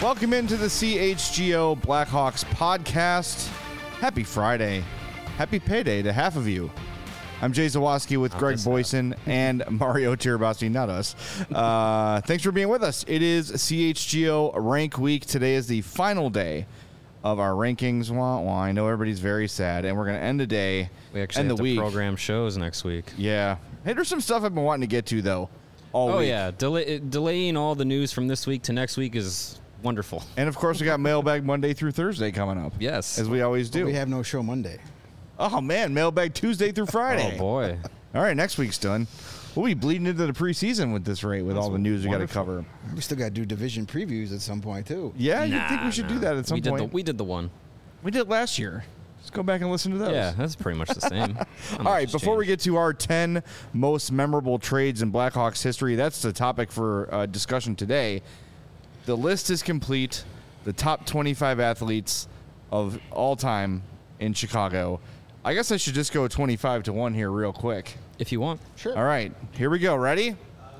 Welcome into the CHGO Blackhawks podcast. Happy Friday. Happy payday to half of you. I'm Jay Zawoski with Greg Boyson and Mario Tirabassi, not us. Thanks for being with us. It is CHGO Rank Week. Today is the final day of our rankings. I know everybody's very sad, and we're going to end the day. We actually have to program shows next week. Yeah. Hey, there's some stuff I've been wanting to get to, though, all week. Yeah. Delaying all the news from this week to next week is wonderful. And, of course, we got Mailbag Monday through Thursday coming up. Yes. As we always do. We have no show Monday. Oh, man, Mailbag Tuesday through Friday. Oh, boy. All right, next week's done. We'll be bleeding into the preseason with this rate, with all the news we got to cover. We still got to do division previews at some point, too. Yeah, you think we should do that at some point? We did the one. We did last year. Let's go back and listen to those. Yeah, that's pretty much the same. All right, before we get to our 10 most memorable trades in Blackhawks history, that's the topic for discussion today. The list is complete. The top 25 athletes of all time in Chicago. I guess I should just go 25-1 here real quick. If you want. Sure. All right, here we go. Ready?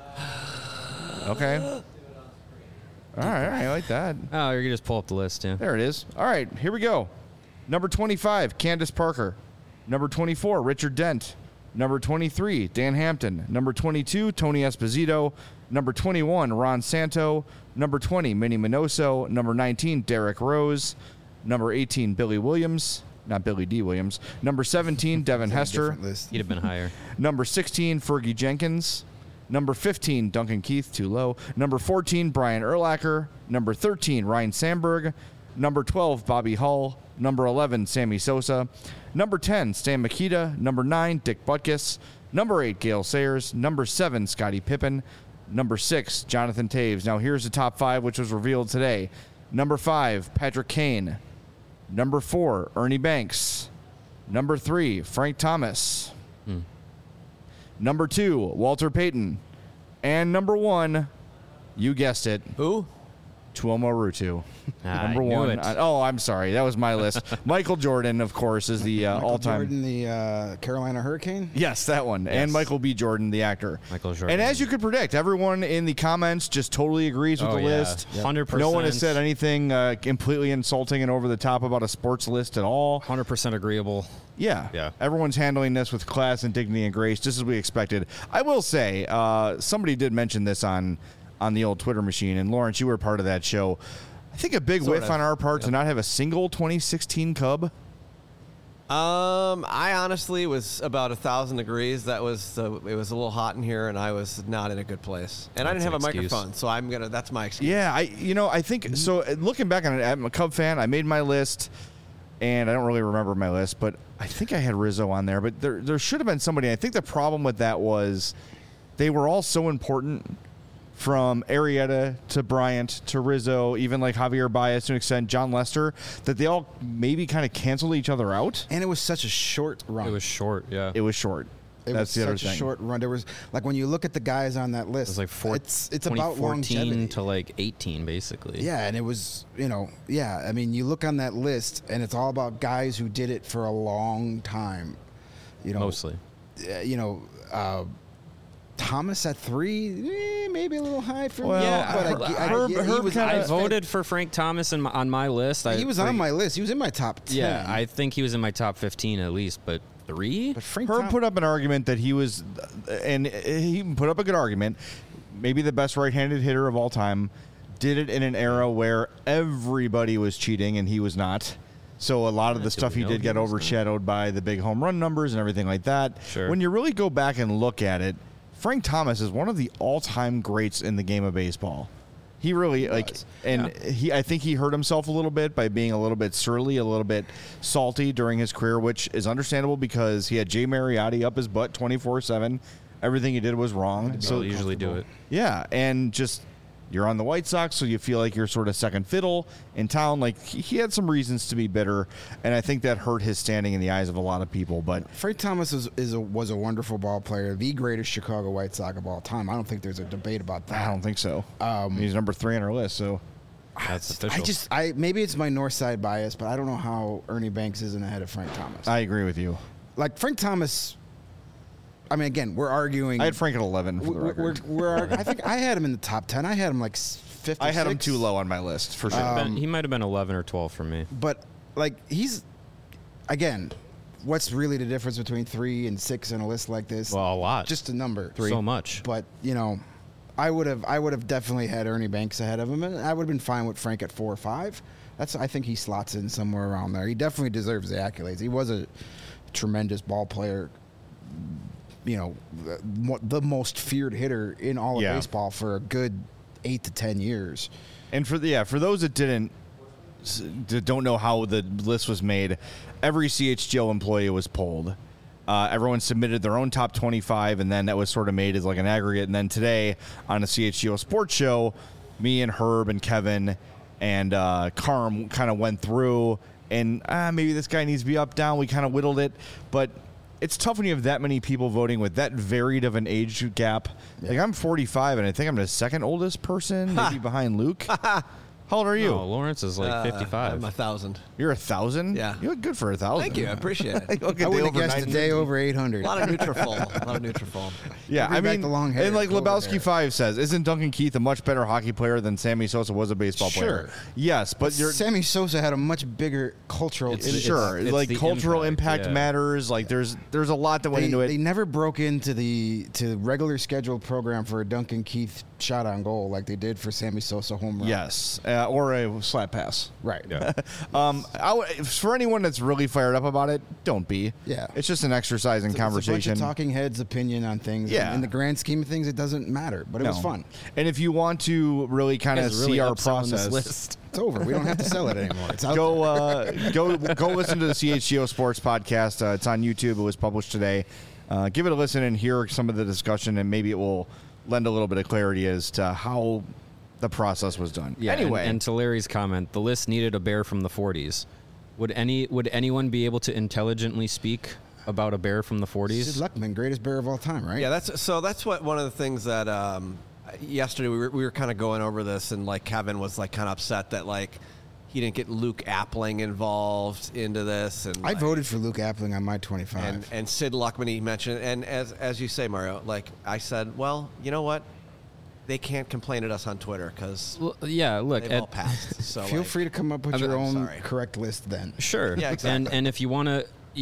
Okay. All right, I like that. Oh, you can just pull up the list, yeah. There it is. All right, here we go. Number 25, Candace Parker. Number 24, Richard Dent. Number 23, Dan Hampton. Number 22, Tony Esposito. Number 21, Ron Santo. Number 20, Minnie Minoso. Number 19, Derek Rose. Number 18, Billy Williams. Not Billy D. Williams. Number 17, Devin Hester. He'd have been higher. Number 16, Fergie Jenkins. Number 15, Duncan Keith, too low. Number 14, Brian Urlacher. Number 13, Ryan Sandberg. Number 12, Bobby Hull. Number 11, Sammy Sosa. Number 10, Stan Mikita. Number 9, Dick Butkus. Number 8, Gale Sayers. Number 7, Scottie Pippen. Number 6, Jonathan Toews. Now here's the top 5, which was revealed today. Number 5, Patrick Kane. Number 4, Ernie Banks. Number 3, Frank Thomas. Number 2, Walter Payton. And number 1, you guessed it. Who? Tuomo Ruutu. Number I knew 1. it. I'm sorry. That was my list. Michael Jordan, of course, is the all-time. Jordan, the Carolina Hurricane? Yes, that one. Yes. And Michael B. Jordan, the actor. Michael Jordan. And as you could predict, everyone in the comments just totally agrees with the list. 100%. No one has said anything completely insulting and over the top about a sports list at all. 100% agreeable. Yeah. Everyone's handling this with class and dignity and grace, just as we expected. I will say, somebody did mention this on the old Twitter machine, and Lawrence, you were part of that show. I think a big whiff on our part to not have a single 2016 Cub. I honestly was about 1,000 degrees. It was a little hot in here, and I was not in a good place. And I didn't have a microphone, so that's my excuse. Yeah, I think so. Looking back on it, I'm a Cub fan. I made my list, and I don't really remember my list, but I think I had Rizzo on there. But there should have been somebody. I think the problem with that was they were all so important. From Arrieta to Bryant to Rizzo, even like Javier Baez to an extent, John Lester, that they all maybe kind of canceled each other out. And it was such a short run. It was short, yeah. It was short. That's the other thing. Such a short run. There was, like, when you look at the guys on that list, It was like it's about 2014 longevity. to like 18, basically. Yeah, and it was, I mean, you look on that list, and it's all about guys who did it for a long time. Mostly. Thomas at 3, maybe a little high for me. Yeah, but I voted for Frank Thomas on my list. He was on my list. He was in my top 10. Yeah, I think he was in my top 15 at least, but 3? But Frank Herb put up an argument that he was, and he put up a good argument, maybe the best right-handed hitter of all time, did it in an era where everybody was cheating and he was not. So a lot of the stuff he did get overshadowed by the big home run numbers and everything like that. Sure. When you really go back and look at it, Frank Thomas is one of the all-time greats in the game of baseball. He really I think he hurt himself a little bit by being a little bit surly, a little bit salty during his career, which is understandable because he had Jay Mariotti up his butt 24/7. Everything he did was wrong. So usually do it. Yeah, and just you're on the White Sox, so you feel like you're sort of second fiddle in town. Like he had some reasons to be bitter, and I think that hurt his standing in the eyes of a lot of people. But Frank Thomas was a wonderful ball player, the greatest Chicago White Sox of all time. I don't think there's a debate about that. I don't think so. He's number 3 on our list, so that's official. Maybe it's my north side bias, but I don't know how Ernie Banks isn't ahead of Frank Thomas. I agree with you. Like Frank Thomas. I mean, again, we're arguing. I had Frank at 11 for the record. I think I had him in the top 10. I had him like 5th or I had him 6th. too low on my list for sure. He might have been 11 or 12 for me. But like he's again, what's really the difference between 3 and 6 in a list like this? Well, a lot. Just a number. So much. But I would have definitely had Ernie Banks ahead of him, and I would have been fine with Frank at 4 or 5. I think he slots in somewhere around there. He definitely deserves the accolades. He was a tremendous ball player. The most feared hitter in all of baseball for a good 8 to 10 years. And for those that don't know how the list was made, every CHGO employee was polled. Everyone submitted their own top 25, and then that was sort of made as like an aggregate. And then today on a CHGO sports show, me and Herb and Kevin and Carm kind of went through, and maybe this guy needs to be up, down. We kind of whittled it, but it's tough when you have that many people voting with that varied of an age gap. Yeah. Like I'm 45, and I think I'm the second oldest person, maybe behind Luke. How old are you? No, Lawrence is like 55. I'm 1,000. You're 1,000? Yeah. You look good for 1,000. Thank you. I appreciate it. I would have guessed a day over 800. A lot of Nutrafol. Yeah, Bring back the long hair. And like Over Lebowski there. 5 says, isn't Duncan Keith a much better hockey player than Sammy Sosa was a baseball player? Yes, but Sammy Sosa had a much bigger cultural. It's like the cultural impact yeah. matters. Like there's a lot that went into it. They never broke into the regular scheduled program for a Duncan Keith shot on goal like they did for Sammy Sosa home run. Yes, or a slap pass. Right. Yeah. For anyone that's really fired up about it, don't be. Yeah. It's just an exercise in conversation. It's a bunch of talking heads' opinion on things. Yeah. In the grand scheme of things, it doesn't matter, but it was fun. And if you want to really kind of really see our upselling this process, list. It's over. We don't have to sell it anymore. It's out there. go listen to the CHGO Sports podcast. It's on YouTube. It was published today. Give it a listen and hear some of the discussion, and maybe it will lend a little bit of clarity as to how the process was done. Yeah, anyway, and to Larry's comment, the list needed a bear from the 40s. Would anyone be able to intelligently speak about a bear from the 40s? Sid Luckman, greatest bear of all time, right? Yeah, that's what one of the things that yesterday we were kind of going over this, and like Kevin was like kind of upset that like he didn't get Luke Appling involved into this. And I voted for Luke Appling on my 25. and Sid Luckman he mentioned, and as you say, Mario, like I said, well, you know what? They can't complain at us on Twitter because look, they've all passed. So Feel free to come up with your I'm own sorry. correct list then. Sure. Yeah, exactly. And if you want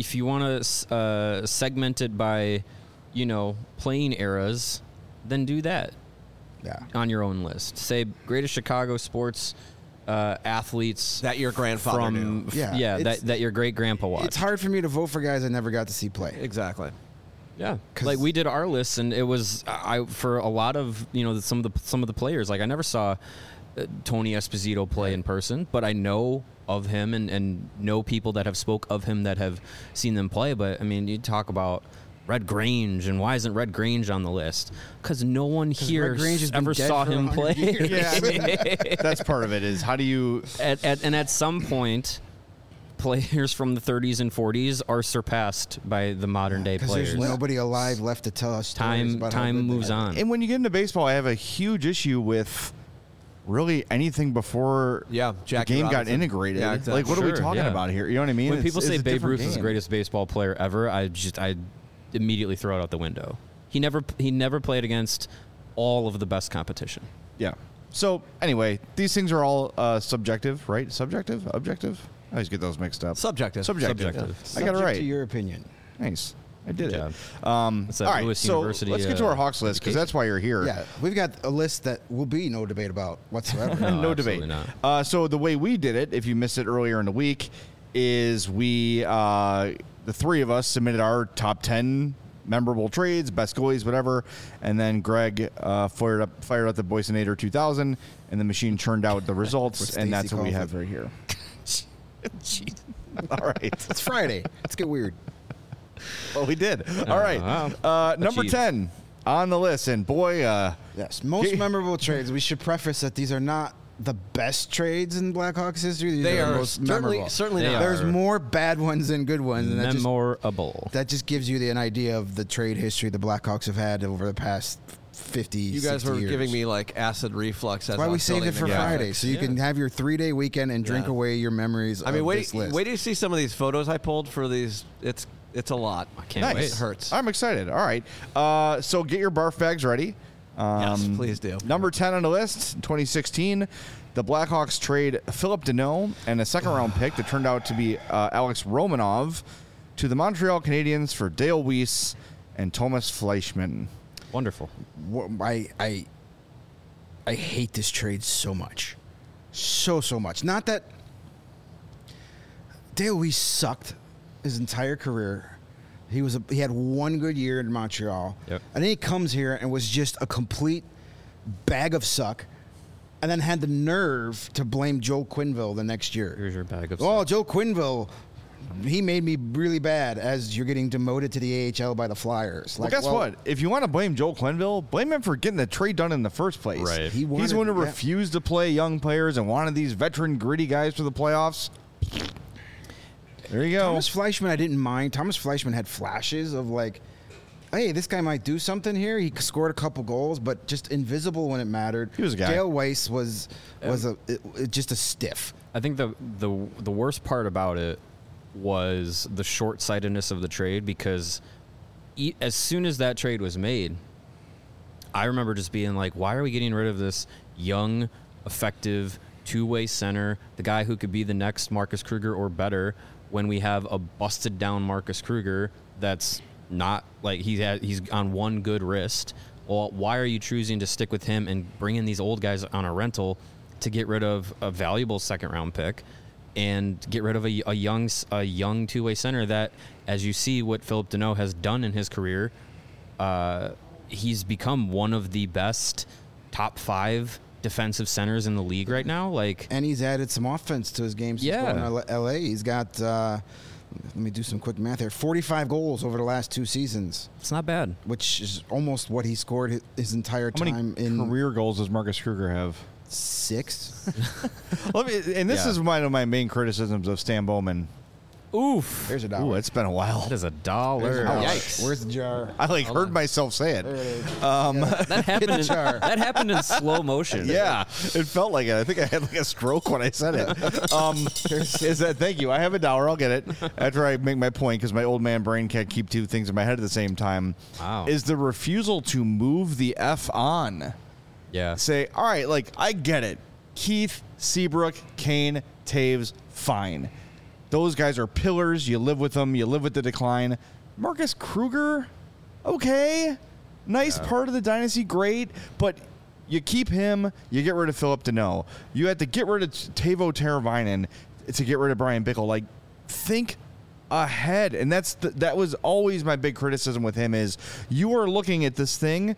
to segment it by, playing eras, then do that. Yeah. On your own list. Say greatest Chicago sports athletes that your grandfather knew. Yeah, that your great grandpa watched. It's hard for me to vote for guys I never got to see play. Exactly. Yeah, like we did our lists, and it was for a lot of some of the players. Like I never saw Tony Esposito play in person, but I know of him and know people that have spoke of him that have seen them play. But I mean, you talk about Red Grange, and why isn't Red Grange on the list? Because no one here ever saw him play. Yeah, I mean, that's part of it. Is how do you at some point, players from the 30s and 40s are surpassed by the modern day players. There's nobody alive left to tell us stories about how time good they moves are. on. And when you get into baseball, I have a huge issue with really anything before the Jackie game Robinson. got integrated. Yeah, exactly. Like, what are we Sure, talking yeah. about here? You know what I mean? When people say it's a Babe different Ruth is the game. greatest baseball player ever, I immediately throw it out the window. He never played against all of the best competition. Yeah. So anyway, these things are all subjective, right? Subjective, objective. I always get those mixed up. Subjective. Yeah. I got it Subject right. to your opinion. Nice. I did Yeah. it. It's that All right, Lewis so University, let's get to our Hawks list because that's why you're here. Yeah, we've got a list that will be no debate about whatsoever. No absolutely debate. not. So the way we did it, if you missed it earlier in the week, is we the three of us submitted our top 10 memorable trades, best goalies, whatever, and then Greg fired up the Boysonator 2000, and the machine churned out the results, and that's what we have right here. All right. It's Friday. Let's get weird. Well, we did. All right. Number Achieved. 10 on the list, and boy, Yes, most memorable trades. We should preface that these are not the best trades in Blackhawks history. These They are the are most memorable. certainly They not. There's are. more bad ones than good ones, and Memorable. that just gives you an idea of the trade history the Blackhawks have had over the past 50, You guys 60 were years. giving me like acid reflux. That's why we saved it for Friday, so you can have your 3-day weekend and drink Yeah. away your memories I mean, of wait this list. till you see some of these photos I pulled for these. It's a lot. I can't nice. wait. It hurts. I'm excited. All right. So get your barf bags ready. Yes, please do. Number 10 on the list, 2016, the Blackhawks trade Philip Deneau and a second-round pick that turned out to be Alex Romanov to the Montreal Canadiens for Dale Weiss and Thomas Fleischmann. Wonderful. I hate this trade so much. So much. Not that Dale Weiss sucked his entire career. He had one good year in Montreal. Yep. And then he comes here and was just a complete bag of suck. And then had the nerve to blame Joe Quenneville the next year. Here's your bag of Oh, stuff. Joe Quenneville, he made me really bad as you're getting demoted to the AHL by the Flyers. Well, guess what? If you want to blame Joel Quenneville, blame him for getting the trade done in the first place. Right. He wanted- He's the one who yeah. refused to play young players and wanted these veteran, gritty guys for the playoffs. There you go. Thomas Fleischmann, I didn't mind. Thomas Fleischmann had flashes of like, hey, this guy might do something here. He scored a couple goals, but just invisible when it mattered. He was a guy. Dale Weiss was just a stiff. I think the worst part about it was the short-sightedness of the trade, because as soon as that trade was made, I remember just being like, why are we getting rid of this young, effective, two-way center, the guy who could be the next Marcus Kruger or better, when we have a busted-down Marcus Kruger that's not, like, he's on one good wrist? Well, why are you choosing to stick with him and bring in these old guys on a rental to get rid of a valuable second-round pick and get rid of a young two-way center that, as you see what Philip Deneau has done in his career, he's become one of the best top 5 defensive centers in the league right now. Like, And he's added some offense to his game since Yeah. going to LA. He's got, let me do some quick math here, 45 goals over the last 2 seasons, it's not bad. which is almost what he scored his entire How many time in career goals does Marcus Kruger have? 6. And this Yeah. is one of my main criticisms of Stan Bowman. Oof. There's a Ooh, dollar. it's been a while. That is a There's dollar. a dollar. Yikes. Where's the jar? I heard myself say it. That happened. jar. That happened in slow motion. Yeah, it felt like it. I think I had like a stroke when I said it. Is that? Thank you. I have a dollar. I'll get it after I make my point, because my old man brain can't keep 2 things in my head at the same time. Wow. Is the refusal to move the F on? Yeah. Say, all right, like, I get it. Keith, Seabrook, Kane, Taves, fine. Those guys are pillars. You live with them. You live with the decline. Marcus Kruger, okay. Nice part of the dynasty, great. But you keep him. You get rid of Philip Deneau. You had to get rid of Teuvo Teravainen to get rid of Brian Bickle. Like, think ahead. And that was always my big criticism with him, is you are looking at this thing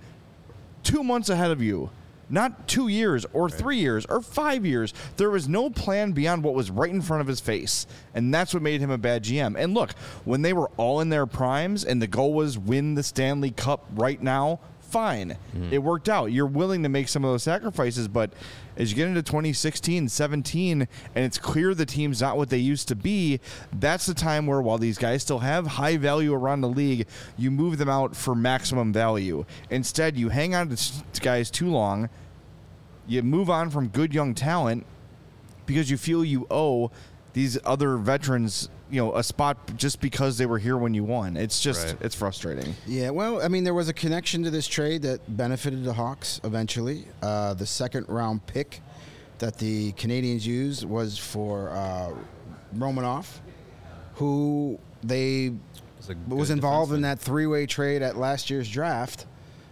2 months ahead of you. Not 2 years or 3 years or 5 years. There was no plan beyond what was right in front of his face. And that's what made him a bad GM. And look, when they were all in their primes and the goal was win the Stanley Cup right now, fine. It worked out. You're willing to make some of those sacrifices, but as you get into 2016, 17, and it's clear the team's not what they used to be, that's the time where, while these guys still have high value around the league, you move them out for maximum value. Instead, you hang on to guys too long. You move on from good young talent because you feel you owe these other veterans, a spot just because they were here when you won. It's just, Right. it's frustrating. Yeah, well, I mean, there was a connection to this trade that benefited the Hawks eventually. The second-round pick that the Canadians used was for Romanov, who they was involved in that 3-way trade at last year's draft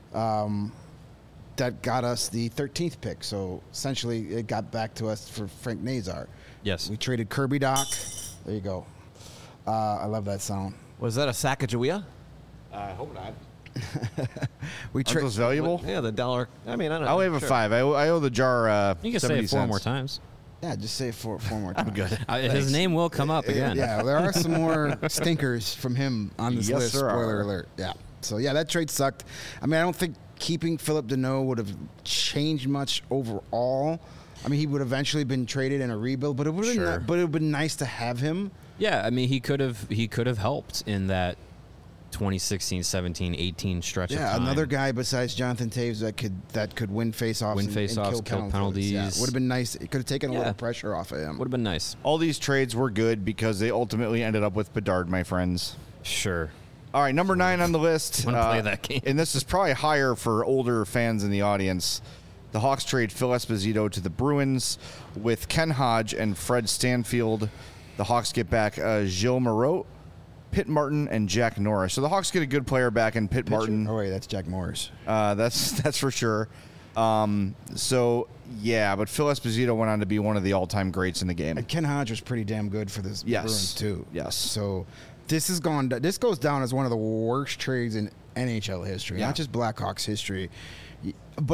that got us the 13th pick. So essentially, it got back to us for Frank Nazar. Yes. We traded Kirby Doc. There you go. I love that sound. Was that a Sacagawea? I hope not. We Aren't traded. those valuable? Yeah, the dollar. I mean, I don't know. I'll have a Sure. 5. I owe the jar You can 70 say it 4 cents. more times. Yeah, just say it four more times. Good. His name will come up again. Yeah, there are some more stinkers from him on this Yes, list. there Spoiler are. alert. Yeah. So, yeah, that trade sucked. I mean, I don't think keeping Philip Deneau would have changed much overall. I mean, he would eventually been traded in a rebuild, but it would have Sure. been nice to have him. Yeah, I mean, he could have helped in that 2016, 17, 18 stretch of Yeah, time. another guy besides Jonathan Taves that could win faceoffs, Win and faceoffs, kill penalties. Yeah, would have been nice. It could have taken a Yeah. little pressure off of him. Would have been nice. All these trades were good because they ultimately ended up with Bedard, my friends. Sure. All right, number 9 on the list. I'm gonna play that game. And this is probably higher for older fans in the audience. The Hawks trade Phil Esposito to the Bruins with Ken Hodge and Fred Stanfield. The Hawks get back Gilles Moreau, Pitt Martin, and Jack Norris. So the Hawks get a good player back in Pitt Martin. Oh, wait, that's Jack Morris. That's for sure. So, yeah, but Phil Esposito went on to be one of the all-time greats in the game. And Ken Hodge was pretty damn good for this Bruins, too. Yes. So this goes down as one of the worst trades in NHL history, not just Blackhawks history. But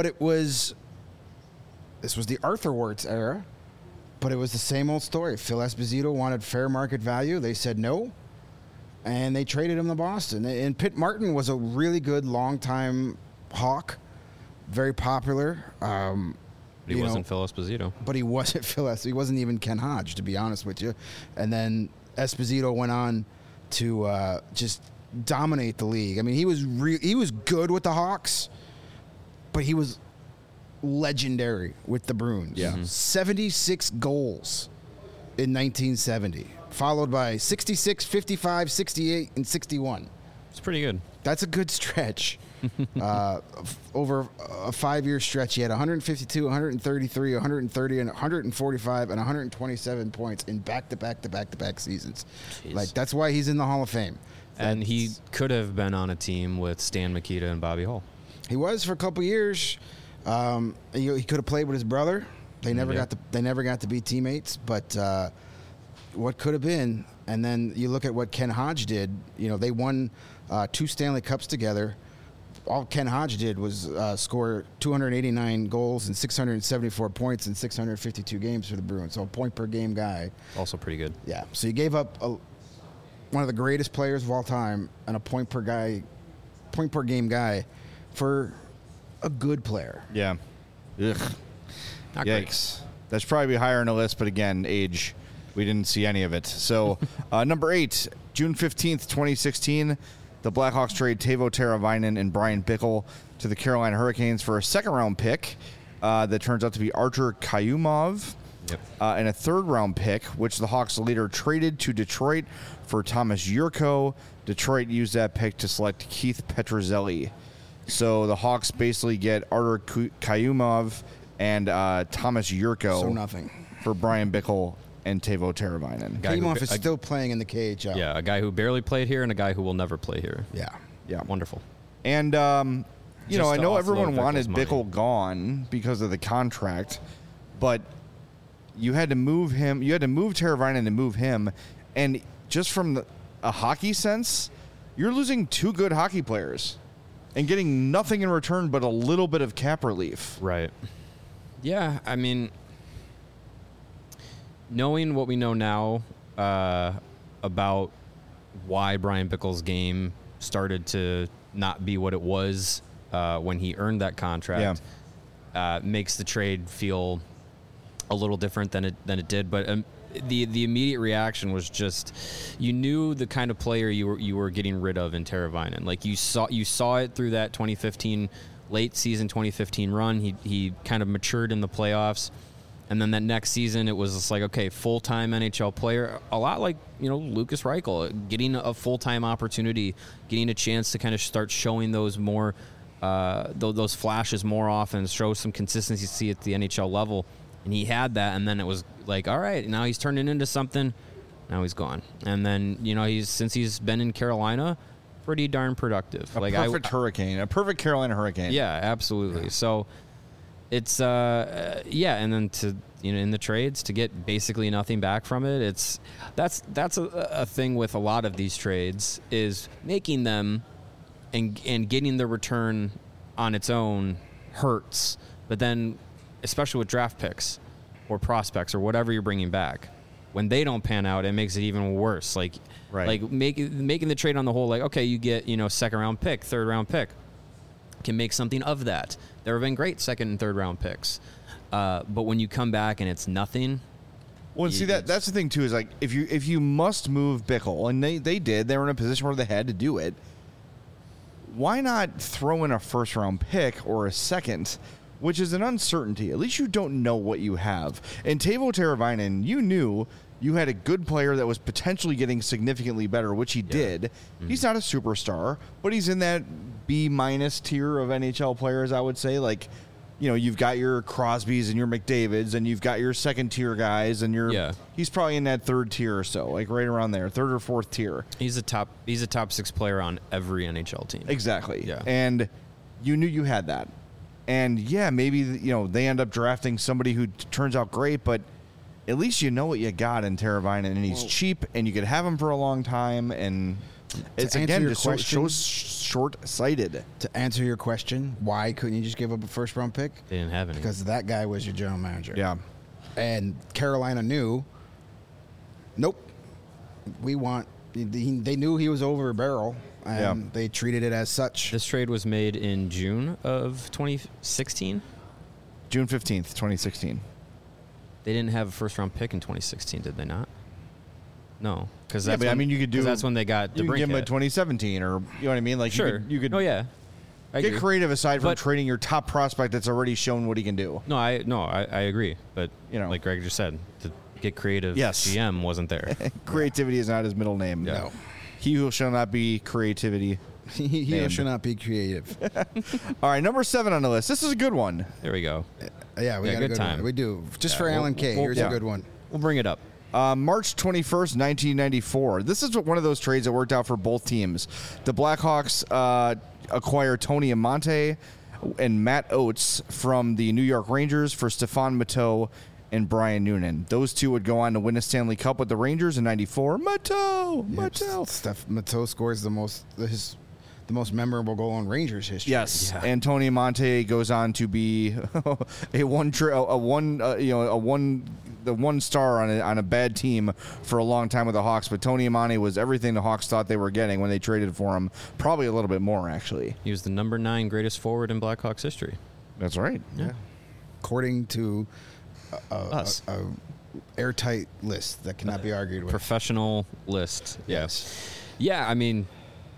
this was the Arthur Wirtz era, but it was the same old story. Phil Esposito wanted fair market value. They said no, and they traded him to Boston. And Pitt Martin was a really good long-time Hawk, very popular. He wasn't Phil Esposito. But he wasn't Phil Esposito. He wasn't even Ken Hodge, to be honest with you. And then Esposito went on to just dominate the league. I mean, he was good with the Hawks, but he was legendary with the Bruins. Yeah. 76 goals in 1970, followed by 66, 55, 68, and 61. It's pretty good. That's a good stretch. Over a 5-year stretch, he had 152, 133, 130, and 145, and 127 points in back-to-back seasons. Jeez. Like, that's why he's in the Hall of Fame. And he could have been on a team with Stan Mikita and Bobby Hull. He was for a couple years. He could have played with his brother. They never got to be teammates. But what could have been? And then you look at what Ken Hodge did. You know, they won 2 Stanley Cups together. All Ken Hodge did was score 289 goals and 674 points in 652 games for the Bruins. So a point per game guy. Also pretty good. Yeah. So you gave up one of the greatest players of all time and a point per game guy for a good player. Yeah. Ugh. Not Yikes. That's probably higher on the list, but again, age, we didn't see any of it. So, number 8, June 15th, 2016, the Blackhawks trade Teuvo Teravainen and Brian Bickle to the Carolina Hurricanes for a second-round pick that turns out to be Artur Kayumov. Yep. And a third-round pick, which the Hawks later traded to Detroit for Thomas Yurko. Detroit used that pick to select Keith Petruzzelli. So the Hawks basically get Artur Kayumov and Thomas Yurko. So nothing. For Brian Bickle and Teuvo Teravainen. Kayumov is still playing in the KHL. Yeah, a guy who barely played here and a guy who will never play here. Yeah. Wonderful. And, I Just to know everyone offload wanted Bickle's money. Bickle gone because of the contract, but you had to move him. You had to move Teravainen to move him. And just from a hockey sense, you're losing 2 good hockey players and getting nothing in return but a little bit of cap relief. Right. Yeah, I mean, knowing what we know now about why Brian Bickle's game started to not be what it was when he earned that contract makes the trade feel a little different than it did. But the immediate reaction was just, you knew the kind of player you were getting rid of in Teravainen. Like you saw it through that 2015 late season 2015 run. He kind of matured in the playoffs, and then that next season it was just like, okay, full-time NHL player, a lot like Lucas Reichel, getting a full-time opportunity, getting a chance to kind of start showing those more those flashes more often, show some consistency at the NHL level. And he had that, and then it was like, all right, now he's turning into something. Now he's gone. And then, since he's been in Carolina, pretty darn productive. A perfect Carolina Hurricane. Yeah, absolutely. Yeah. So it's, and then to, in the trades, to get basically nothing back from it, that's a thing with a lot of these trades, is making them and getting the return on its own hurts. But then, especially with draft picks or prospects or whatever you're bringing back, when they don't pan out, it makes it even worse. Like making the trade on the whole, like, okay, you get, second round pick, third round pick, can make something of that. There have been great second and third round picks. But when you come back and it's nothing. Well, see, that's the thing too, is like, if you must move Bickle, and they did, they were in a position where they had to do it, why not throw in a first round pick or a second, which is an uncertainty. At least you don't know what you have. And Teuvo Teravainen, you knew you had a good player that was potentially getting significantly better, which he did. Mm-hmm. He's not a superstar, but he's in that B- tier of NHL players, I would say. Like, you know, you've got your Crosbys and your McDavids, and you've got your second tier guys, and he's probably in that third tier or so, like right around there, third or fourth tier. He's a top 6 player on every NHL team. Exactly. Yeah. And you knew you had that. And yeah, maybe, you know, they end up drafting somebody who turns out great, but at least you know what you got in Teravainen, and he's cheap, and you could have him for a long time, and it's again just so short-sighted. To answer your question, why couldn't you just give up a first-round pick? They didn't have any. Because that guy was your general manager. Yeah. And Carolina knew, nope, we want, they knew he was over a barrel, and they treated it as such. This trade was made in June of 2016? June 15th, 2016. They didn't have a first-round pick in 2016, did they not? No, because but I mean, you could do. That's when they got. You could give him a 2017, or you know what I mean. Like, sure, you could. Oh yeah, I get agree. creative aside from trading your top prospect that's already shown what he can do. No, I agree, but you know, like Greg just said, to get creative. Yes. GM wasn't there. Creativity is not his middle name. Yeah. No, he who shall not be creativity. He who shall not be creative. All right, number 7 on the list. This is a good one. There we go. Yeah, we got a good time. one. We do. Just for Alan K. Here's a good one. We'll bring it up. March 21st, 1994. This is one of those trades that worked out for both teams. The Blackhawks acquire Tony Amonte and Matt Oates from the New York Rangers for Stefan Matteau and Brian Noonan. Those two would go on to win a Stanley Cup with the Rangers in 94. Matteau! Matteau scores the most memorable goal in Rangers history. Yes, and Tony Amonte goes on to be the one star on a bad team for a long time with the Hawks. But Tony Amonte was everything the Hawks thought they were getting when they traded for him. Probably a little bit more, actually. He was the number 9 greatest forward in Blackhawks history. That's right. Yeah, according to us. A airtight list that cannot be argued with. Professional list. Yes. Yeah, I mean,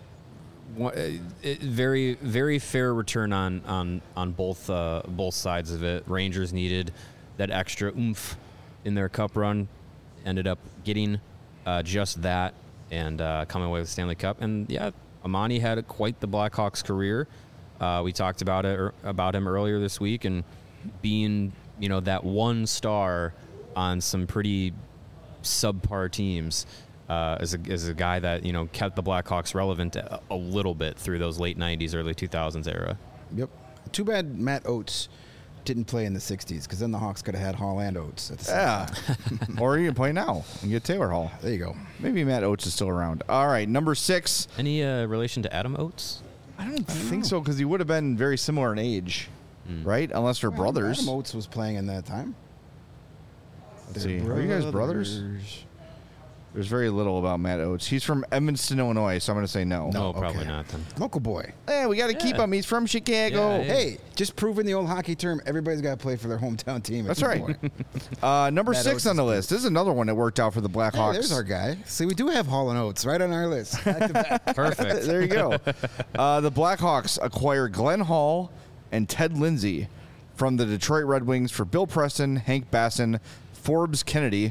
very, very fair return on both sides of it. Rangers needed that extra oomph in their cup run, ended up getting just that and coming away with the Stanley Cup. And yeah, Amani had quite the Blackhawks career. We talked about him earlier this week, and being that one star on some pretty subpar teams. As a guy that kept the Blackhawks relevant a little bit through those late 90s, early 2000s era. Yep. Too bad Matt Oates didn't play in the 60s, because then the Hawks could have had Hall and Oates at the same time. Or you can play now and get Taylor Hall. There you go. Maybe Matt Oates is still around. All right, number 6. Any relation to Adam Oates? I don't think so, because he would have been very similar in age, right? Unless they're brothers. Adam Oates was playing in that time. Let's see. Are you guys brothers? There's very little about Matt Oates. He's from Evanston, Illinois, so I'm going to say no. No, probably not then. Local boy. Hey, we got to keep him. He's from Chicago. Yeah. Hey, just proving the old hockey term, everybody's got to play for their hometown team. That's right. Number Matt 6 Oates on the is list. This is another one that worked out for the Blackhawks. Hey, there's our guy. See, we do have Hall and Oates right on our list. Back to back. Perfect. There you go. The Blackhawks acquire Glenn Hall and Ted Lindsay from the Detroit Red Wings for Bill Preston, Hank Basson, Forbes Kennedy,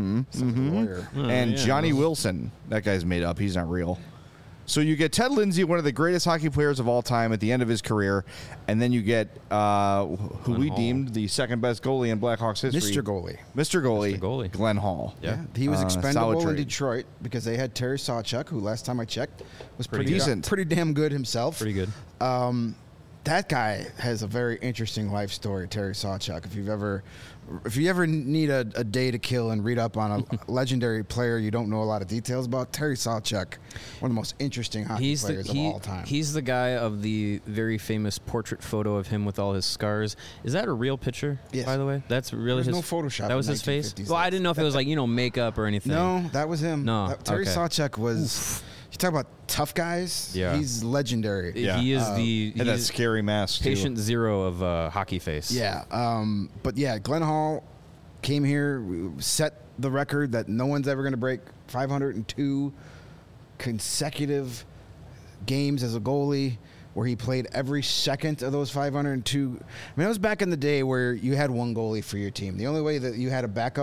and Johnny Wilson. That guy's made up. He's not real. So you get Ted Lindsay, one of the greatest hockey players of all time, at the end of his career, and then you get who we deemed the second best goalie in Blackhawks history. Mr. Goalie, Glenn Hall. Yeah. He was expendable in trade. Detroit because they had Terry Sawchuk, who last time I checked was pretty decent. pretty damn good himself. Pretty good. That guy has a very interesting life story, Terry Sawchuk. If you ever need a day to kill and read up on a legendary player you don't know a lot of details about, Terry Sawchuk, one of the most interesting hockey players of all time. He's the guy of the very famous portrait photo of him with all his scars. Is that a real picture, Yes. by the way? That's really There's his no Photoshop That was in his face? 1950s. Well, I didn't know if it was like, makeup or anything. No, that was him. No, Terry okay. Sawchuk was... You talk about tough guys. Yeah. He's legendary. Yeah. He is And that he's scary mask, too. patient zero of hockey face. Yeah. But yeah, Glenn Hall came here, set the record that no one's ever going to break. 502 consecutive games as a goalie, where he played every second of those 502. I mean, it was back in the day where you had one goalie for your team. The only way that you had a backup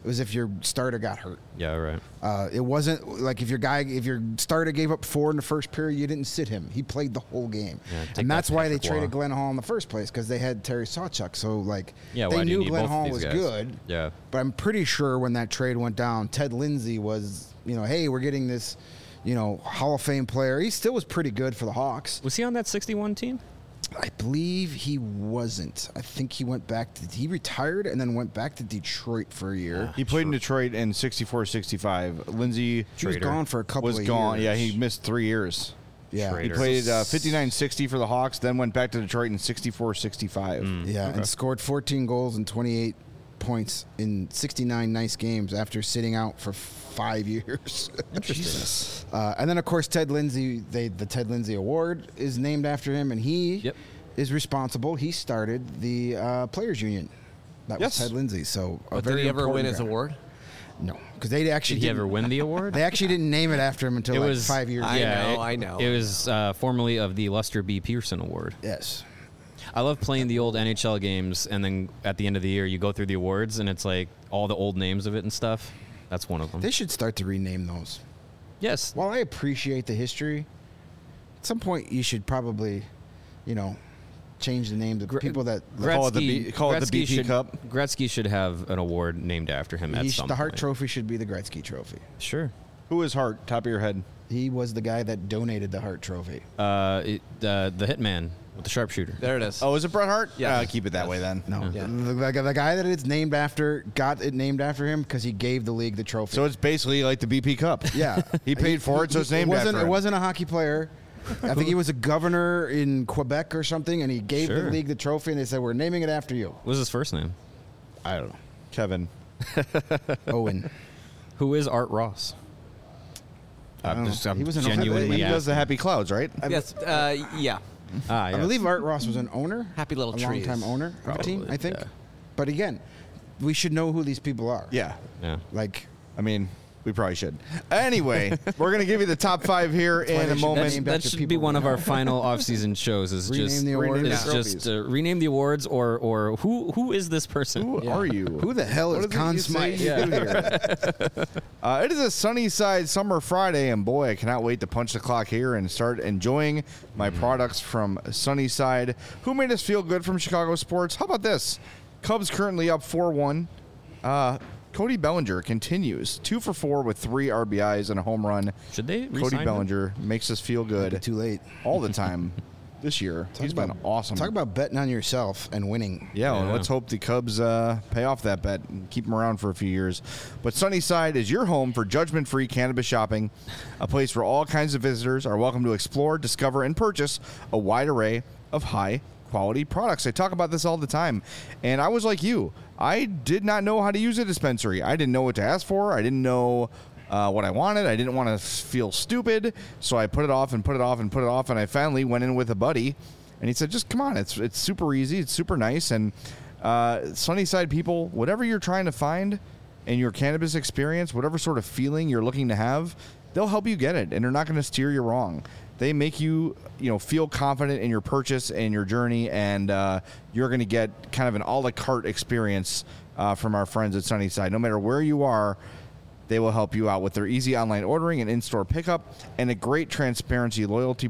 It was if your starter got hurt. Yeah, right. It wasn't like if your starter gave up 4 in the first period, you didn't sit him. He played the whole game, take and that's that, why they Patrick traded Waugh. Glenn Hall in the first place because they had Terry Sawchuk. So like Yeah, they why do you knew need Glenn both of Hall these was guys? good. Yeah. But I'm pretty sure when that trade went down, Ted Lindsay was, hey, we're getting this, Hall of Fame player. He still was pretty good for the Hawks. Was he on that 61 team? I believe he wasn't. I think he went back he retired and then went back to Detroit for a year. He played in Detroit in 64-65. Lindsey He was gone for a couple was of gone. years. Yeah, he missed 3 years. Yeah. Traitor. He played 59-60 for the Hawks, then went back to Detroit in 64-65. Yeah, and scored 14 goals and 28 points in 69 nice games after sitting out for 5 years. Interesting. And then, of course, Ted Lindsay, the Ted Lindsay Award is named after him, and he Yep. is responsible. He started the Players Union. That Yes. was Ted Lindsay. So, a But very did he ever win important his guy. award? No, because they actually Did he didn't- ever win the award? They actually didn't name it after him until It like was 5 years I ago. know, I know. It was formerly of the Lester B. Pearson Award. Yes. I love playing the old NHL games, and then at the end of the year, you go through the awards, and it's like all the old names of it and stuff. That's one of them. They should start to rename those. Yes. While I appreciate the history, at some point you should probably, change the names of people that Call it the BP should, Cup. Gretzky should have an award named after him at some the Hart point. Trophy should be the Gretzky Trophy. Sure. Who is Hart? Top of your head. He was the guy that donated the Hart Trophy. The hitman with the sharpshooter. There it is. Oh, is it Bret Hart? Yeah. Keep it that way then. No, Yeah. the guy that it's named after got it named after him because he gave the league the trophy. So it's basically like the BP Cup. yeah, He paid for it, so it's named after him. It wasn't a hockey player. I think he was a governor in Quebec or something, and he gave the Sure. league the trophy, and they said, "We're naming it after you." What was his first name? I don't know. Kevin. Owen. Who is Art Ross? don't know. I'm He was an genuinely He does asking. the Happy Clouds, right? Yes. Yeah. Ah, I yes. believe Art Ross was an owner. Happy little a trees. long-time owner of the team, Probably, I think. yeah. But again, we should know who these people are. Yeah. Yeah. Like, I mean, we probably should. Anyway, we're going to give you the top 5 here why in they a should moment. name That after should people be we one of know. our final off-season shows. Is Rename just the awards. Rename is the just rename the awards or who is this person? Who are you? who the hell What is is it Conn you say Smythe? you do here? It is a sunny side summer Friday, and boy, I cannot wait to punch the clock here and start enjoying my products from Sunnyside. Who made us feel good from Chicago sports? How about this? Cubs currently up 4-1. Cody Bellinger continues 2 for 4 with 3 RBIs and a home run. Should they Cody re-sign him? Bellinger makes us feel good Too late. all the time this year. He's been awesome. Talk about betting on yourself and winning. Yeah, well, Yeah. let's hope the Cubs pay off that bet and keep them around for a few years. But Sunnyside is your home for judgment-free cannabis shopping, a place where all kinds of visitors are welcome to explore, discover, and purchase a wide array of high-quality products. I talk about this all the time, and I was like you. I did not know how to use a dispensary. I didn't know what to ask for. I didn't know what I wanted. I didn't want to feel stupid, so I put it off and put it off and put it off, and I finally went in with a buddy, and he said, just come on. It's super easy. It's super nice, and Sunnyside people, whatever you're trying to find in your cannabis experience, whatever sort of feeling you're looking to have, they'll help you get it, and they're not going to steer you wrong. They make you, feel confident in your purchase and your journey, and you're going to get kind of an a la carte experience from our friends at Sunnyside. No matter where you are, they will help you out with their easy online ordering and in-store pickup, and a great transparent loyalty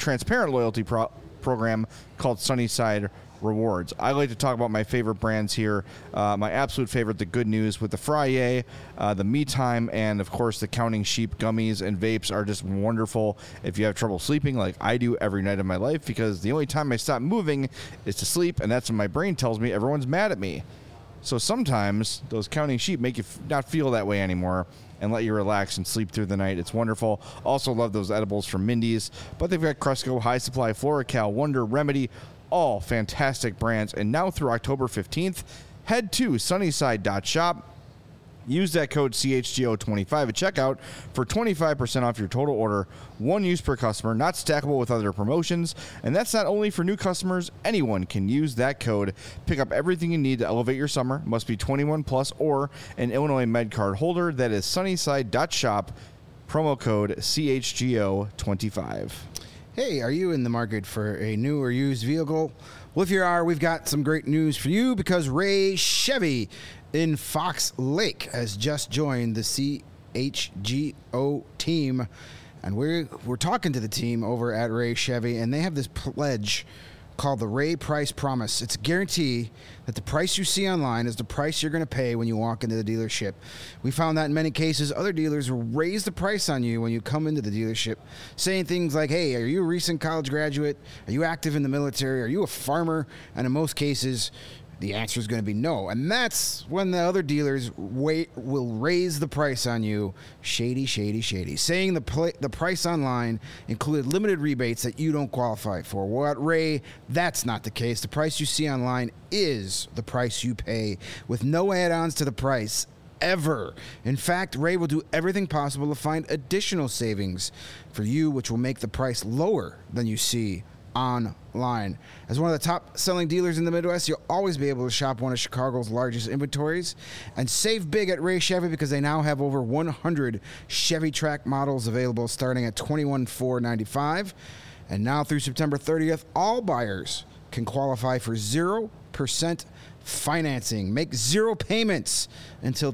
program called Sunnyside Rewards. I like to talk about my favorite brands here. My absolute favorite, the Good News with the Frye, the Me Time, and of course the Counting Sheep gummies and vapes are just wonderful if you have trouble sleeping like I do every night of my life, because the only time I stop moving is to sleep, and that's when my brain tells me everyone's mad at me. So sometimes those Counting Sheep make you not feel that way anymore and let you relax and sleep through the night. It's wonderful. Also love those edibles from Mindy's, but they've got Cresco, High Supply, FloraCal, Wonder, Remedy, all fantastic brands. And now through October 15th, head to sunnyside.shop. Use that code CHGO25 at checkout for 25% off your total order. One use per customer, not stackable with other promotions. And that's not only for new customers. Anyone can use that code. Pick up everything you need to elevate your summer. Must be 21 plus or an Illinois Med card holder. That is sunnyside.shop. Promo code CHGO25. Hey, are you in the market for a new or used vehicle? Well, if you are, we've got some great news for you, because Ray Chevy in Fox Lake has just joined the CHGO team. And we're talking to the team over at Ray Chevy, and they have this pledge called the Ray Price Promise. It's a guarantee that the price you see online is the price you're going to pay when you walk into the dealership. We found that in many cases, other dealers will raise the price on you when you come into the dealership, saying things like, hey, are you a recent college graduate? Are you active in the military? Are you a farmer? And in most cases, the answer is going to be no. And that's when the other dealers will raise the price on you. Shady, shady, shady. Saying the price online included limited rebates that you don't qualify for. Well, at Ray, that's not the case. The price you see online is the price you pay, with no add-ons to the price ever. In fact, Ray will do everything possible to find additional savings for you, which will make the price lower than you see online. As one of the top selling dealers in the Midwest, you'll always be able to shop one of Chicago's largest inventories and save big at Ray Chevy, because they now have over 100 Chevy Track models available starting at $21,495. And now through September 30th, all buyers can qualify for 0% financing. Make 0 payments until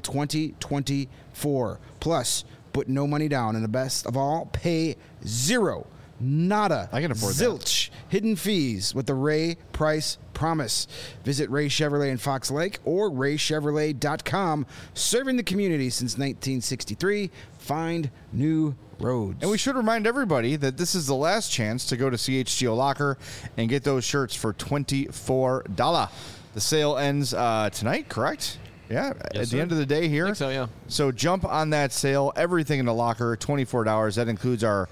2024. Plus, put no money down, and the best of all, pay zero. Nada. I can afford zilch. Hidden fees with the Ray Price Promise. Visit Ray Chevrolet in Fox Lake or raychevrolet.com. Serving the community since 1963. Find new roads. And we should remind everybody that this is the last chance to go to CHGO Locker and get those shirts for $24. The sale ends tonight, correct? Yeah, yes, at the end of the day here. I think so, yeah. So jump on that sale. Everything in the locker, $24. That includes our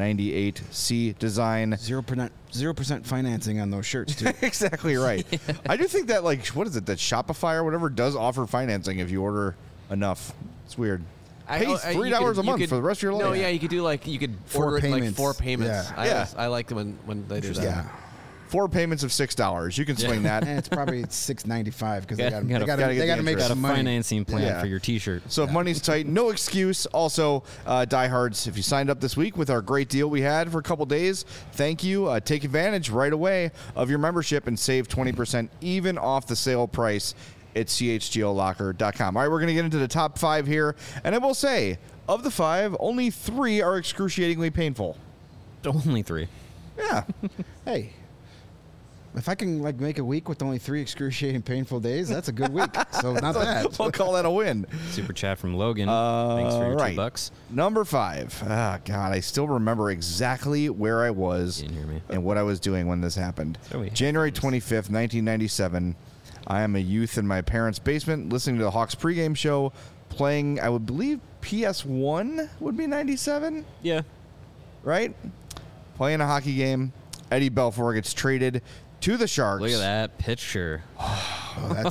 98C design. 0% financing on those shirts, too. Exactly right. I do think that, like, what is it, that Shopify or whatever does offer financing if you order enough. It's weird. Pays $3 a month for the rest of your life. No, yeah, you could do Four order payments. like 4 payments. Yeah. I like when they do that. Yeah. 4 payments of $6. You can swing that. And it's probably $6.95 because they Gotta got get to the make interest. Got a some money. financing plan Yeah. for your T-shirt. So if money's tight, no excuse. Also, diehards, if you signed up this week with our great deal we had for a couple days, thank you. Take advantage right away of your membership and save 20% even off the sale price at chgolocker.com. All right, we're going to get into the top 5 here. And I will say, of the 5, only 3 are excruciatingly painful. Only 3. Yeah. Hey, if I can make a week with only 3 excruciating painful days, that's a good week. So not bad. We'll call that a win. Super chat from Logan. Thanks for your right. $2. Number 5. Ah, God, I still remember exactly where I was You didn't hear me. and what I was doing when this happened. So we- January 25th, 1997. I am a youth in my parents' basement listening to the Hawks pregame show, playing, I would believe, PS1 would be 97, Yeah. right? Playing a hockey game. Eddie Belfour gets traded to the Sharks. Look at that picture. Oh, that's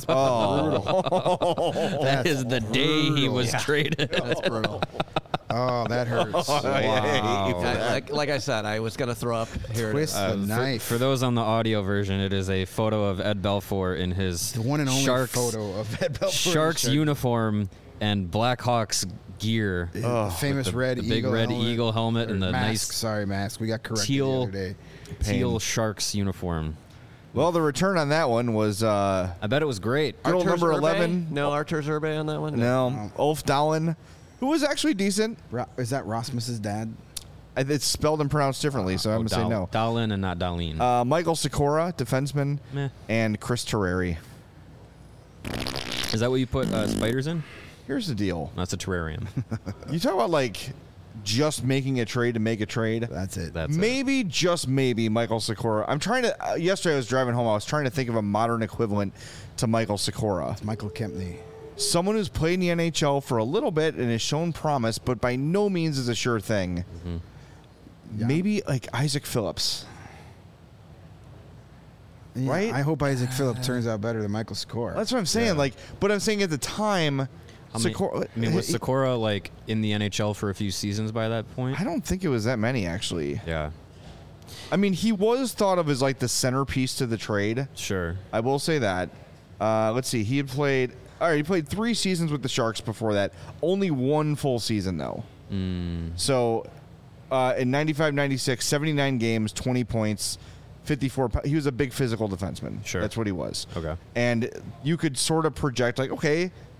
Oh, That is the day he was traded. That's brutal. Oh, that hurts. Wow. Like I said, I was going to throw up here. Twist the knife. For those on the audio version, it is a photo of Ed Belfour in his The one and only Sharks, photo of Ed Belfour. Sharks uniform and The Blackhawks gear. famous the, red the eagle big red helmet. eagle helmet and the mask. nice Sorry, mask. We got corrected the teal other day. teal Sharks uniform. well, the return on that one was I bet it was great. Girl number 11. No Artur Zerbe on that one? No, Ulf Dahlen, who was actually decent. Is that Rasmus's dad? It's spelled and pronounced differently, so I'm going to say no. Dahlin and not Dahlin. Michael Sikora, defenseman, Meh. and Chris Terreri. Is that what you put spiders in? Here's the deal. That's a terrarium. You talk about, just making a trade to make a trade. That's it. That's it. Maybe, just maybe, Michael Sikora. I'm trying to... yesterday I was driving home. I was trying to think of a modern equivalent to Michael Sikora. Michael Kempney. Someone who's played in the NHL for a little bit and has shown promise, but by no means is a sure thing. Yeah. Maybe, Isaac Phillips. Yeah, Right? I hope Isaac Phillips turns out better than Michael Sikora. That's what I'm saying. Yeah. But I'm saying at the time... Sikora, was Sikora in the NHL for a few seasons by that point? I don't think it was that many, actually. Yeah, I mean, he was thought of as the centerpiece to the trade. sure. I will say that. Let's see. He played 3 seasons with the Sharks before that. Only 1 full season, though. So, in 95-96, 79 games, 20 points, 54. He was a big physical defenseman. Sure. That's what he was. Okay. And you could sort of project, okay,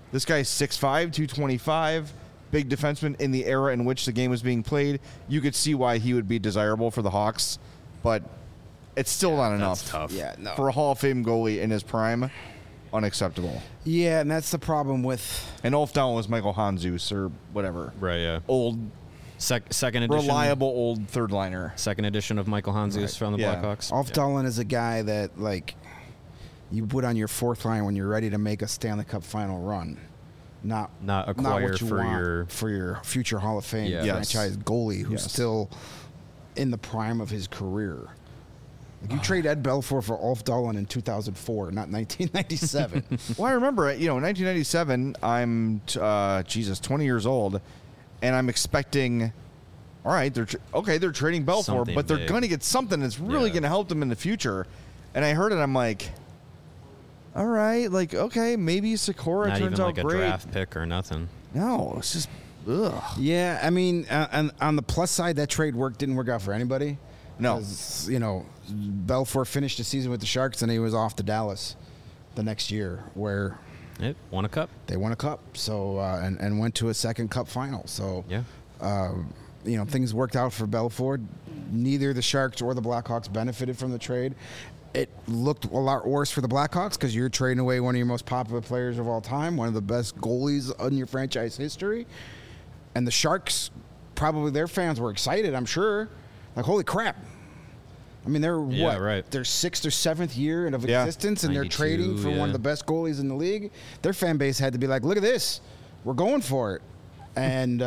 This guy's 6'5", 225, big defenseman in the era in which the game was being played. You could see why he would be desirable for the Hawks, but it's still not enough. That's tough. Yeah, no. For a Hall of Fame goalie in his prime, unacceptable. Yeah, and that's the problem with. And Ulf Dahlin was Michael Hanzus or whatever. Right, yeah. Old, Second edition. reliable old third liner. Second edition of Michael Hanzus from the Yeah. Blackhawks. Ulf Dahlin is a guy that, like, you put on your fourth line when you're ready to make a Stanley Cup final run. Not acquire what you for want for your future Hall of Fame Yeah. Yes. franchise goalie who's Yes. still in the prime of his career. Like you trade Ed Belfour for Ulf Dahlin in 2004, not 1997. Well, I remember, in 1997, I'm, 20 years old, and I'm expecting, all right, they're trading Belfour, Something but they're big. going to get something that's really Yeah. going to help them in the future. And I heard it, I'm like, all right, like, okay, maybe Sikora Not turns even out like a great. draft pick or nothing. No, it's just, ugh. Yeah, I mean, and on the plus side, that trade didn't work out for anybody. No. 'Cause, Belfour finished the season with the Sharks, and he was off to Dallas the next year, where It won a cup. they won a cup. So and went to a second cup final. So Yeah. things worked out for Belfour. Neither the Sharks or the Blackhawks benefited from the trade. It looked a lot worse for the Blackhawks because you're trading away one of your most popular players of all time, one of the best goalies in your franchise history. And the Sharks, probably their fans were excited, I'm sure. Like, holy crap. I mean, they're Yeah, what? right. Their 6th or 7th year of Yeah. existence, and they're 92, trading for one yeah. of the best goalies in the league. Their fan base had to be like, look at this. We're going for it. And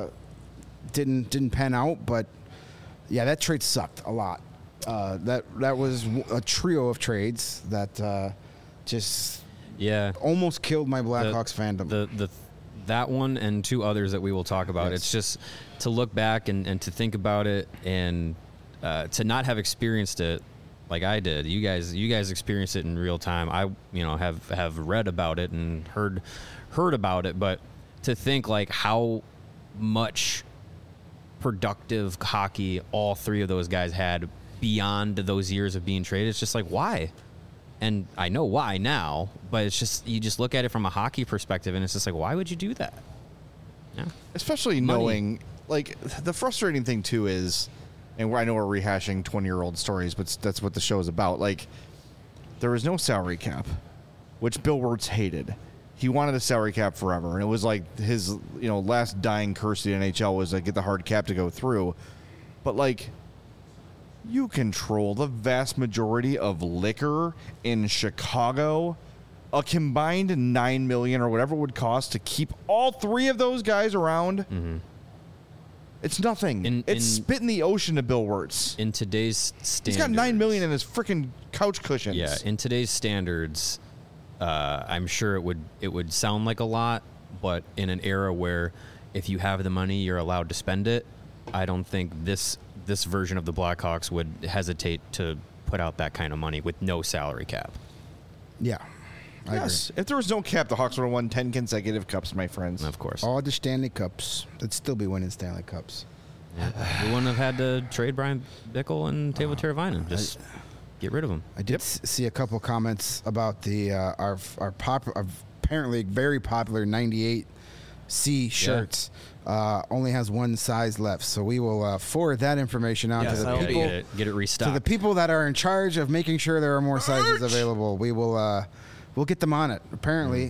didn't pan out, but yeah, that trade sucked a lot. That was a trio of trades that just Yeah. almost killed my Blackhawks fandom. That one and two others that we will talk about. Yes. It's just to look back and to think about it and to not have experienced it like I did. You guys experienced it in real time. I have read about it and heard about it, but to think like how much productive hockey all three of those guys had beyond those years of being traded, it's just like, why? And I know why now, but it's just, you just look at it from a hockey perspective and it's just like, why would you do that? Yeah. Especially Money. knowing, like, the frustrating thing, too, is, and I know we're rehashing 20-year-old stories, but that's what the show is about. Like, there was no salary cap, which Bill Wirtz hated. He wanted a salary cap forever, and it was like his, last dying curse to the NHL was to get the hard cap to go through. But, like, you control the vast majority of liquor in Chicago. A combined $9 million or whatever it would cost to keep all three of those guys around. Mm-hmm. It's nothing. It's spit in the ocean to Bill Wirtz. In today's standards, He's got $9 million in his freaking couch cushions. Yeah, in today's standards, I'm sure it would sound like a lot, but in an era where if you have the money, you're allowed to spend it, I don't think this version of the Blackhawks would hesitate to put out that kind of money with no salary cap. Yeah. I Yes. If there was no cap, the Hawks would have won 10 consecutive cups, my friends. Of course. agree. All the Stanley Cups. They'd still be winning Stanley Cups. We wouldn't have had to trade Brian Bickle and Teuvo Teravainen. Just get rid of them. I did see a couple comments about the our apparently very popular 98 C shirts. Only has one size left, so we will forward that information out Yes, to the I will people. Get it restocked. To the people that are in charge of making sure there are more sizes available, we will we'll get them on it. Apparently,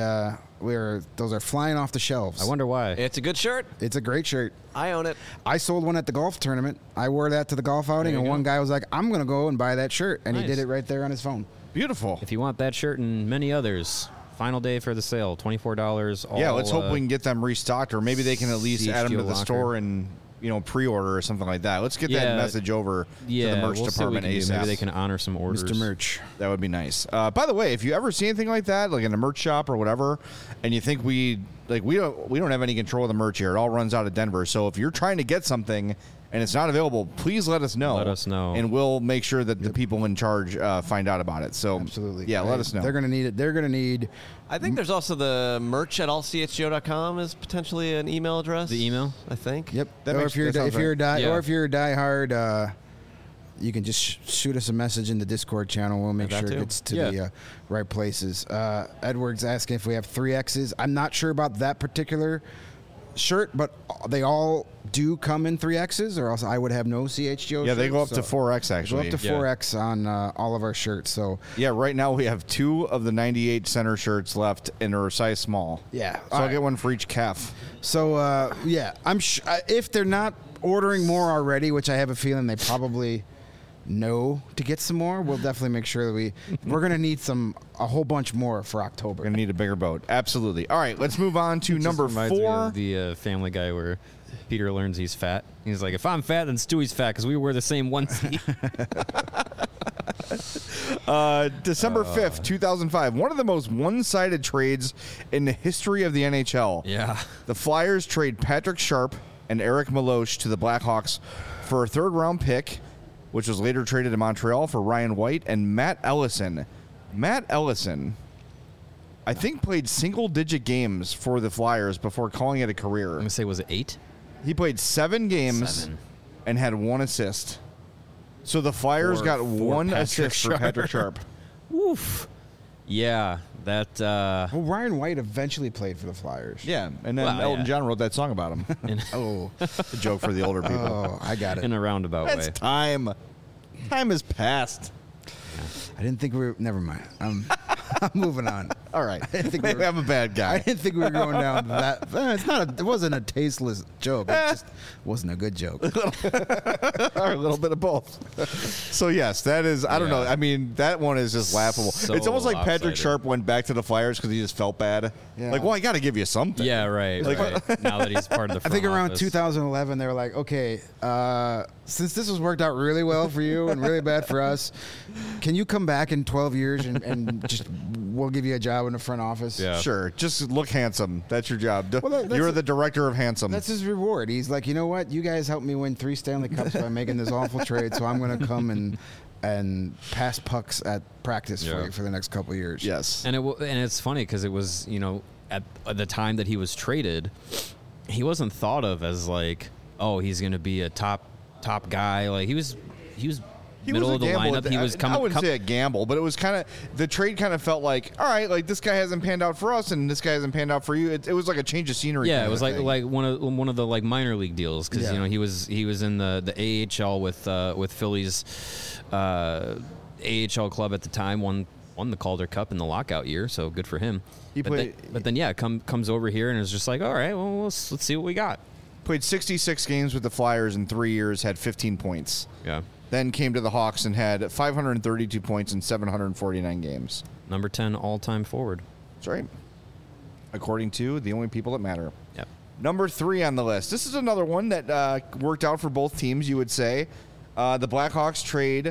those are flying off the shelves. I wonder why. It's a good shirt. It's a great shirt. I own it. I sold one at the golf tournament. I wore that to the golf outing, There and you one go. guy was like, "I'm going to go and buy that shirt," and he Nice. did it right there on his phone. Beautiful. If you want that shirt and many others, final day for the sale, $24. Yeah, let's hope we can get them restocked, or maybe they can at least add them to CHGO the locker. store and pre-order or something like that. Let's get that Yeah. message over to the merch we'll see what we department can do. ASAP. Maybe they can honor some orders. Mr. Merch. That would be nice. By the way, if you ever see anything like that, like in a merch shop or whatever, and you think we don't have any control of the merch here, it all runs out of Denver. So if you're trying to get something and it's not available, please let us know. Let us know. and we'll make sure that the people in charge find out about it. So Absolutely. yeah, let us know. They're going to need it. They're going to need. I think there's also the merch at allchgo.com is potentially an email address. The email? I think. Yep. That or makes- if you're that sounds if you're right. Yeah. or if you're a diehard you can just shoot us a message in the Discord channel. We'll make That sure it too. gets to Yeah. the right places. Edward's asking if we have 3Xs. I'm not sure about that particular shirt, but they all do come in 3Xs, or else I would have no CHGO. Yeah, they shirts, go up to so 4X Go actually. up to 4X on all of our shirts. So Yeah, right now we have 2 of the 98 center shirts left and are size small. yeah, So all I'll right. get one for each calf. So yeah, I'm if they're not ordering more already, which I have a feeling they probably know to get some more, we'll definitely make sure that we're gonna need a whole bunch more for October. We're going to need a bigger boat. Absolutely. All right, let's move on to Just number reminds me 4. of the Family Guy where Peter learns he's fat. He's like, if I'm fat, then Stewie's fat because we wear the same onesie. December 5th, 2005. One of the most one-sided trades in the history of the NHL. Yeah. The Flyers trade Patrick Sharp and Eric Milosh to the Blackhawks for a third-round pick, which was later traded to Montreal for Ryan White and Matt Ellison. Matt Ellison, I think, played single-digit games for the Flyers before calling it a career. I'm going to say, was it 8? He played 7 games 7. and had 1 assist. So the Flyers got For 1 Patrick assist for Patrick Sharp. Woof. Yeah, that. Well, Ryan White eventually played for the Flyers. Yeah, and then Well, Elton yeah. John wrote that song about him. in, Oh, A joke for the older people. oh, I got it. in a roundabout That's way. time. Time has passed. I didn't think we were. Never mind. I'm moving on. All right. didn't think we Maybe were- I'm a bad I guy. didn't think we were going down that. It's not. It wasn't a tasteless joke. It just wasn't a good joke. Or a little bit of both. So, yes, that is, I don't know. Yeah. I mean, that one is just laughable. So It's almost like Patrick lopsided. Sharp went back to the Flyers because he just felt bad. Yeah. Like, well, I got to give you something. Yeah, right. right. Now that he's part of the I think front around office. 2011, they were like, okay, since this has worked out really well for you and really bad for us, can you come back in 12 years and just we'll give you a job in the front office? Yeah. Sure. Just look handsome. That's your job. Well, that's You're a- the director of handsome. That's his reward. He's like, you know what? You guys helped me win 3 Stanley Cups by making this awful trade, so I'm going to come and pass pucks at practice for Yeah. you for the next couple of years. Yes. And it's funny because it was, at the time that he was traded, he wasn't thought of as like, oh, he's going to be a top guy. Like he was middle was a of the gamble lineup. at the- He was coming. I wouldn't say a gamble, but it was kind of the trade. Kind of felt like, all right, like this guy hasn't panned out for us, and this guy hasn't panned out for you. It was like a change of scenery. Yeah, kind it was of like thing. one of the like minor league deals because Yeah. he was in the AHL with Philly's AHL club at the time, won the Calder Cup in the lockout year, so good for him. But then yeah, comes over here and is just like, all right, well let's see what we got. Played 66 games with the Flyers in 3 years, had 15 points. Yeah, Then came to the Hawks and had 532 points in 749 games. number 10 all-time forward. That's right. According to the only people that matter. Yep. Number 3 on the list. This is another one that worked out for both teams, you would say. The Blackhawks trade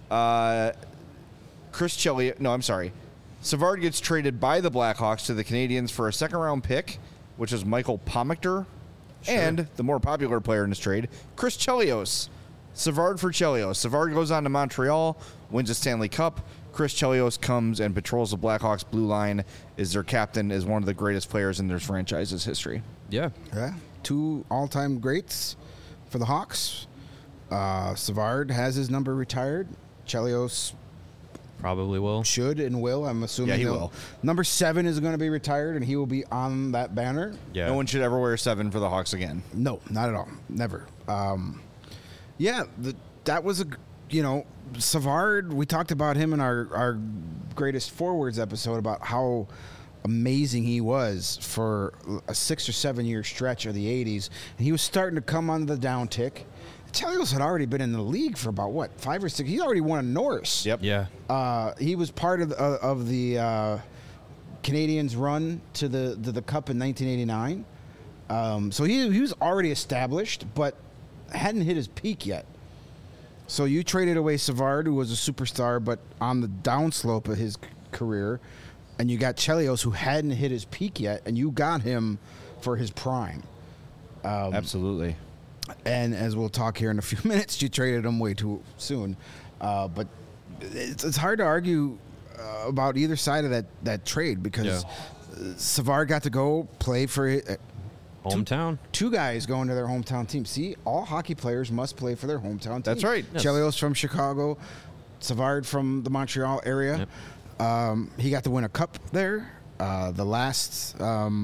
Chris Chelios. No, I'm sorry. Savard gets traded by the Blackhawks to the Canadiens for a second-round pick, which is Michael Pomactor, and the more popular player in this trade, Chris Chelios. Savard for Chelios. Savard goes on to Montreal, wins a Stanley Cup. Chris Chelios comes and patrols the Blackhawks blue line, is their captain, is one of the greatest players in their franchise's history. Yeah. Yeah, 2 all-time greats for the Hawks. Savard has his number retired. Chelios Probably will. should and will. I'm assuming Yeah, he he'll- will. Number 7 is going to be retired, and he will be on that banner. Yeah. No one should ever wear 7 for the Hawks again. No, not at all. Never. Yeah, that was Savard. We talked about him in our greatest forwards episode about how amazing he was for a 6 or 7 year stretch of the 80s, and he was starting to come on the downtick. Chelios had already been in the league for about 5 or 6. He already won a Norris. Yep. Yeah. He was part of the Canadians' run to the Cup in 1989. So he was already established, but hadn't hit his peak yet. So you traded away Savard, who was a superstar, but on the downslope of his career, and you got Chelios, who hadn't hit his peak yet, and you got him for his prime. Absolutely. And as we'll talk here in a few minutes, you traded him way too soon. But it's hard to argue about either side of that trade because Savard got to go play for Hometown. Two guys going to their hometown team. See, all hockey players must play for their hometown team. That's right. Yes. Chelios from Chicago, Savard from the Montreal area. Yep. He got to win a cup there. The last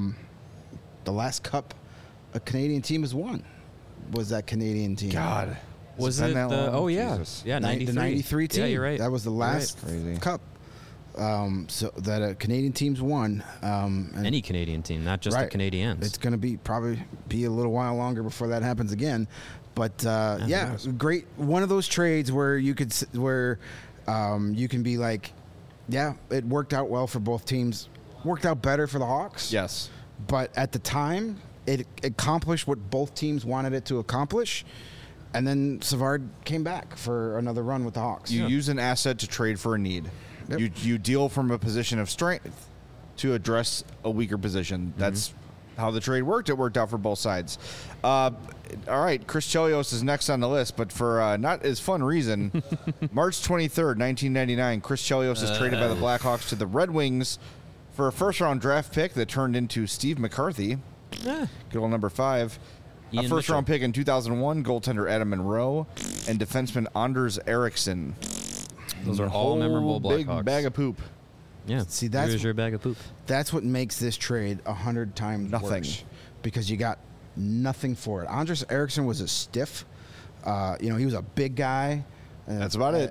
cup a Canadian team has won was that Canadian team. God. Was Has it been that the? long? Oh yeah, Jesus. yeah, The 93. 93 team. Yeah, you're right. That was the You're last right. Crazy. cup. So that Canadian teams won. And Any Canadian team, not just the Right. Canadiens. It's going to probably be a little while longer before that happens again. But yeah, knows? great. One of those trades where you could you can be like, yeah, it worked out well for both teams. Worked out better for the Hawks. Yes. But at the time, it accomplished what both teams wanted it to accomplish. And then Savard came back for another run with the Hawks. You use an asset to trade for a need. Yep. You deal from a position of strength to address a weaker position. That's how the trade worked. It worked out for both sides. All right, Chris Chelios is next on the list, but for not as fun reason. March 23rd, 1999, Chris Chelios is traded by the Blackhawks to the Red Wings for a first-round draft pick that turned into Steve McCarthy, good old number 5. Ian A first-round Mitchell. pick in 2001, goaltender Adam Monroe, and defenseman Anders Eriksson. Those are all memorable Big Blackhawks. bag of poop. Yeah. See, that's- Here's your bag of poop. That's what makes this trade 100 times Nothing. worse. Because you got nothing for it. Anders Eriksson was a stiff. He was a big guy. That's about it.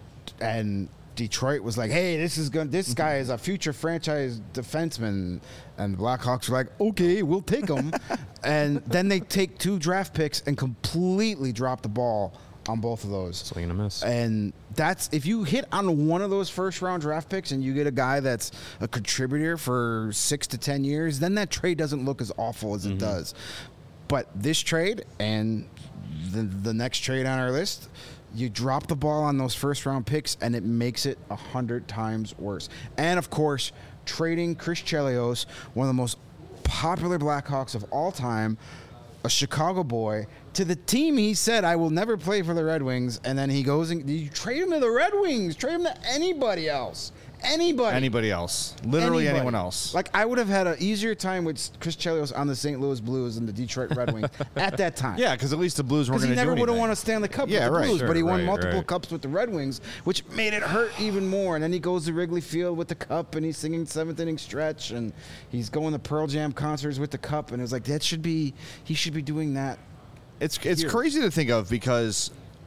And Detroit was like, hey, this guy is a future franchise defenseman. And the Blackhawks were like, okay, we'll take him. And then they take 2 draft picks and completely drop the ball on both of those. Swing and a miss. And that's if you hit on one of those first round draft picks and you get a guy that's a contributor for 6 to 10 years, then that trade doesn't look as awful as it does. But this trade and the next trade on our list, you drop the ball on those first round picks and it makes it 100 times worse. And of course, trading Chris Chelios, one of the most popular Blackhawks of all time, a Chicago boy, to the team he said, I will never play for the Red Wings. And then he goes and you trade him to the Red Wings. Trade him to anybody else. Anybody else. Literally Anybody. anyone else. Like, I would have had an easier time with Chris Chelios on the St. Louis Blues than the Detroit Red Wings at that time. Yeah, because at least the Blues weren't Because going he to do never would have anything. won a Stanley Cup Yeah, with the right. Blues, but he Sure, won right, multiple right. cups with the Red Wings, which made it hurt even more. And then he goes to Wrigley Field with the cup, and he's singing 7th Inning Stretch, and he's going to Pearl Jam concerts with the cup, and it was like, he should be doing that. It's Here. crazy to think of because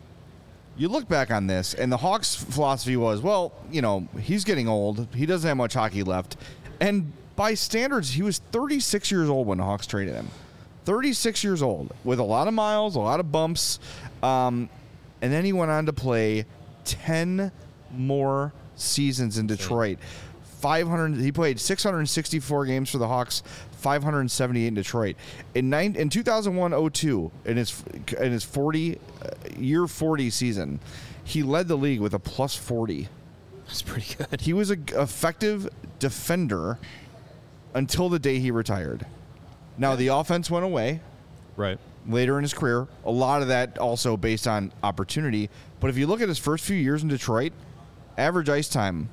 you look back on this, and the Hawks' philosophy was, well, he's getting old. He doesn't have much hockey left. And by standards, he was 36 years old when the Hawks traded him. 36 years old with a lot of miles, a lot of bumps. And then he went on to play 10 more seasons in Detroit. 500. He played 664 games for the Hawks, 578 in Detroit. In 2001-02, in his 40 year 40 season, he led the league with a plus 40. That's pretty good. He was an effective defender until the day he retired. Now the offense went away Right. later in his career. A lot of that also based on opportunity. But if you look at his first few years in Detroit, average ice time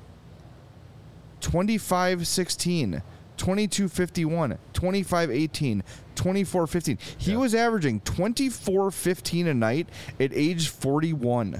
25-16, 22-51, 25-18, 24-15. He was averaging 24-15 a night at age 41.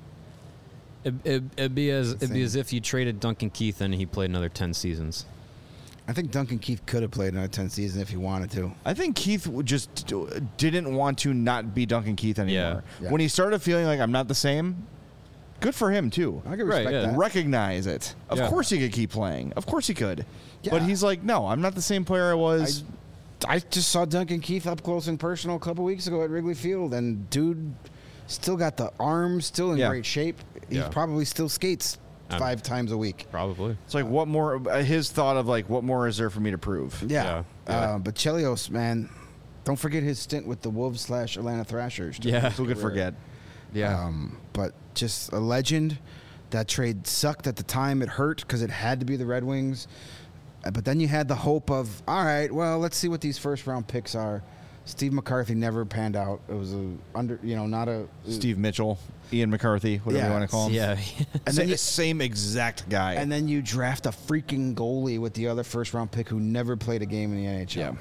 It'd be as if you traded Duncan Keith and he played another 10 seasons. I think Duncan Keith could have played another 10 seasons if he wanted to. I think Keith just didn't want to not be Duncan Keith anymore. Yeah. When he started feeling like I'm not the same, good for him too. I can Right, respect yeah. that. Recognize it. Of Yeah. course he could keep playing. Of course he could. Yeah. But he's like, no, I'm not the same player I was. I just saw Duncan Keith up close and personal a couple weeks ago at Wrigley Field, and dude still got the arms, still in Yeah. great shape. He Yeah. probably still skates 5 times a week. Probably. It's like, what more? His thought of like, what more is there for me to prove? Yeah. Yeah. But Chelios, man, don't forget his stint with the Wolves / Atlanta Thrashers. too. Yeah. Who could forget? Yeah. But just a legend. That trade sucked at the time. It hurt because it had to be the Red Wings. But then you had the hope of, all right, well, let's see what these first round picks are. Steve McCarthy never panned out. It was not a Steve Mitchell, Ian McCarthy, whatever Yeah. you want to call him. Yeah. And then you, same exact guy. and then you draft a freaking goalie with the other first round pick who never played a game in the NHL. Yeah.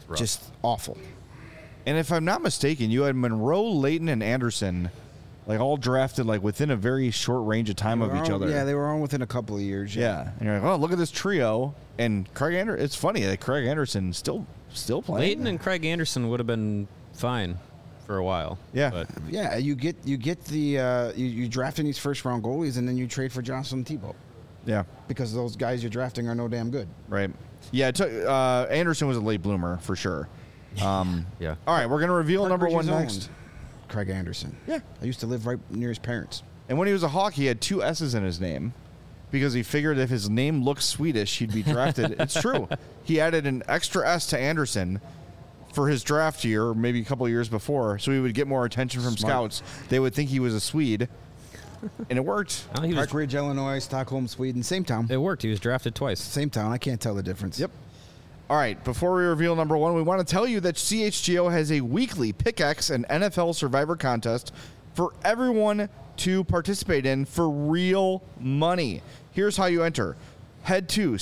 just awful. And if I'm not mistaken, you had Monroe, Leighton, and Anderson, like all drafted like within a very short range of time of each other. Yeah, they were all within a couple of years. Yeah, and you're like, oh, look at this trio. And Craig Anderson. It's funny that Craig Anderson still playing. Leighton and Craig Anderson would have been fine for a while. Yeah. But Yeah, you get the you draft in these first round goalies and then you trade for Jocelyn Thibault Yeah, because those guys you're drafting are no damn good. right. Yeah, it took, Anderson was a late bloomer for sure. yeah. All right, we're gonna reveal number Bridges one owned next. Craig Anderson. Yeah. I used to live right near his parents. And when he was a Hawk, he had 2 S's in his name because he figured if his name looked Swedish, he'd be drafted. It's true. He added an extra S to Anderson for his draft year, or maybe a couple of years before, so he would get more attention from Smart. scouts. They would think he was a Swede, and it worked. Well, he was, Park Ridge, Illinois, Stockholm, Sweden, same town. it worked. He was drafted twice. Same town. I can't tell the difference. Yep. All right, before we reveal number one, we want to tell you that CHGO has a weekly Pickaxe and NFL Survivor contest for everyone to participate in for real money. Here's how you enter. Head to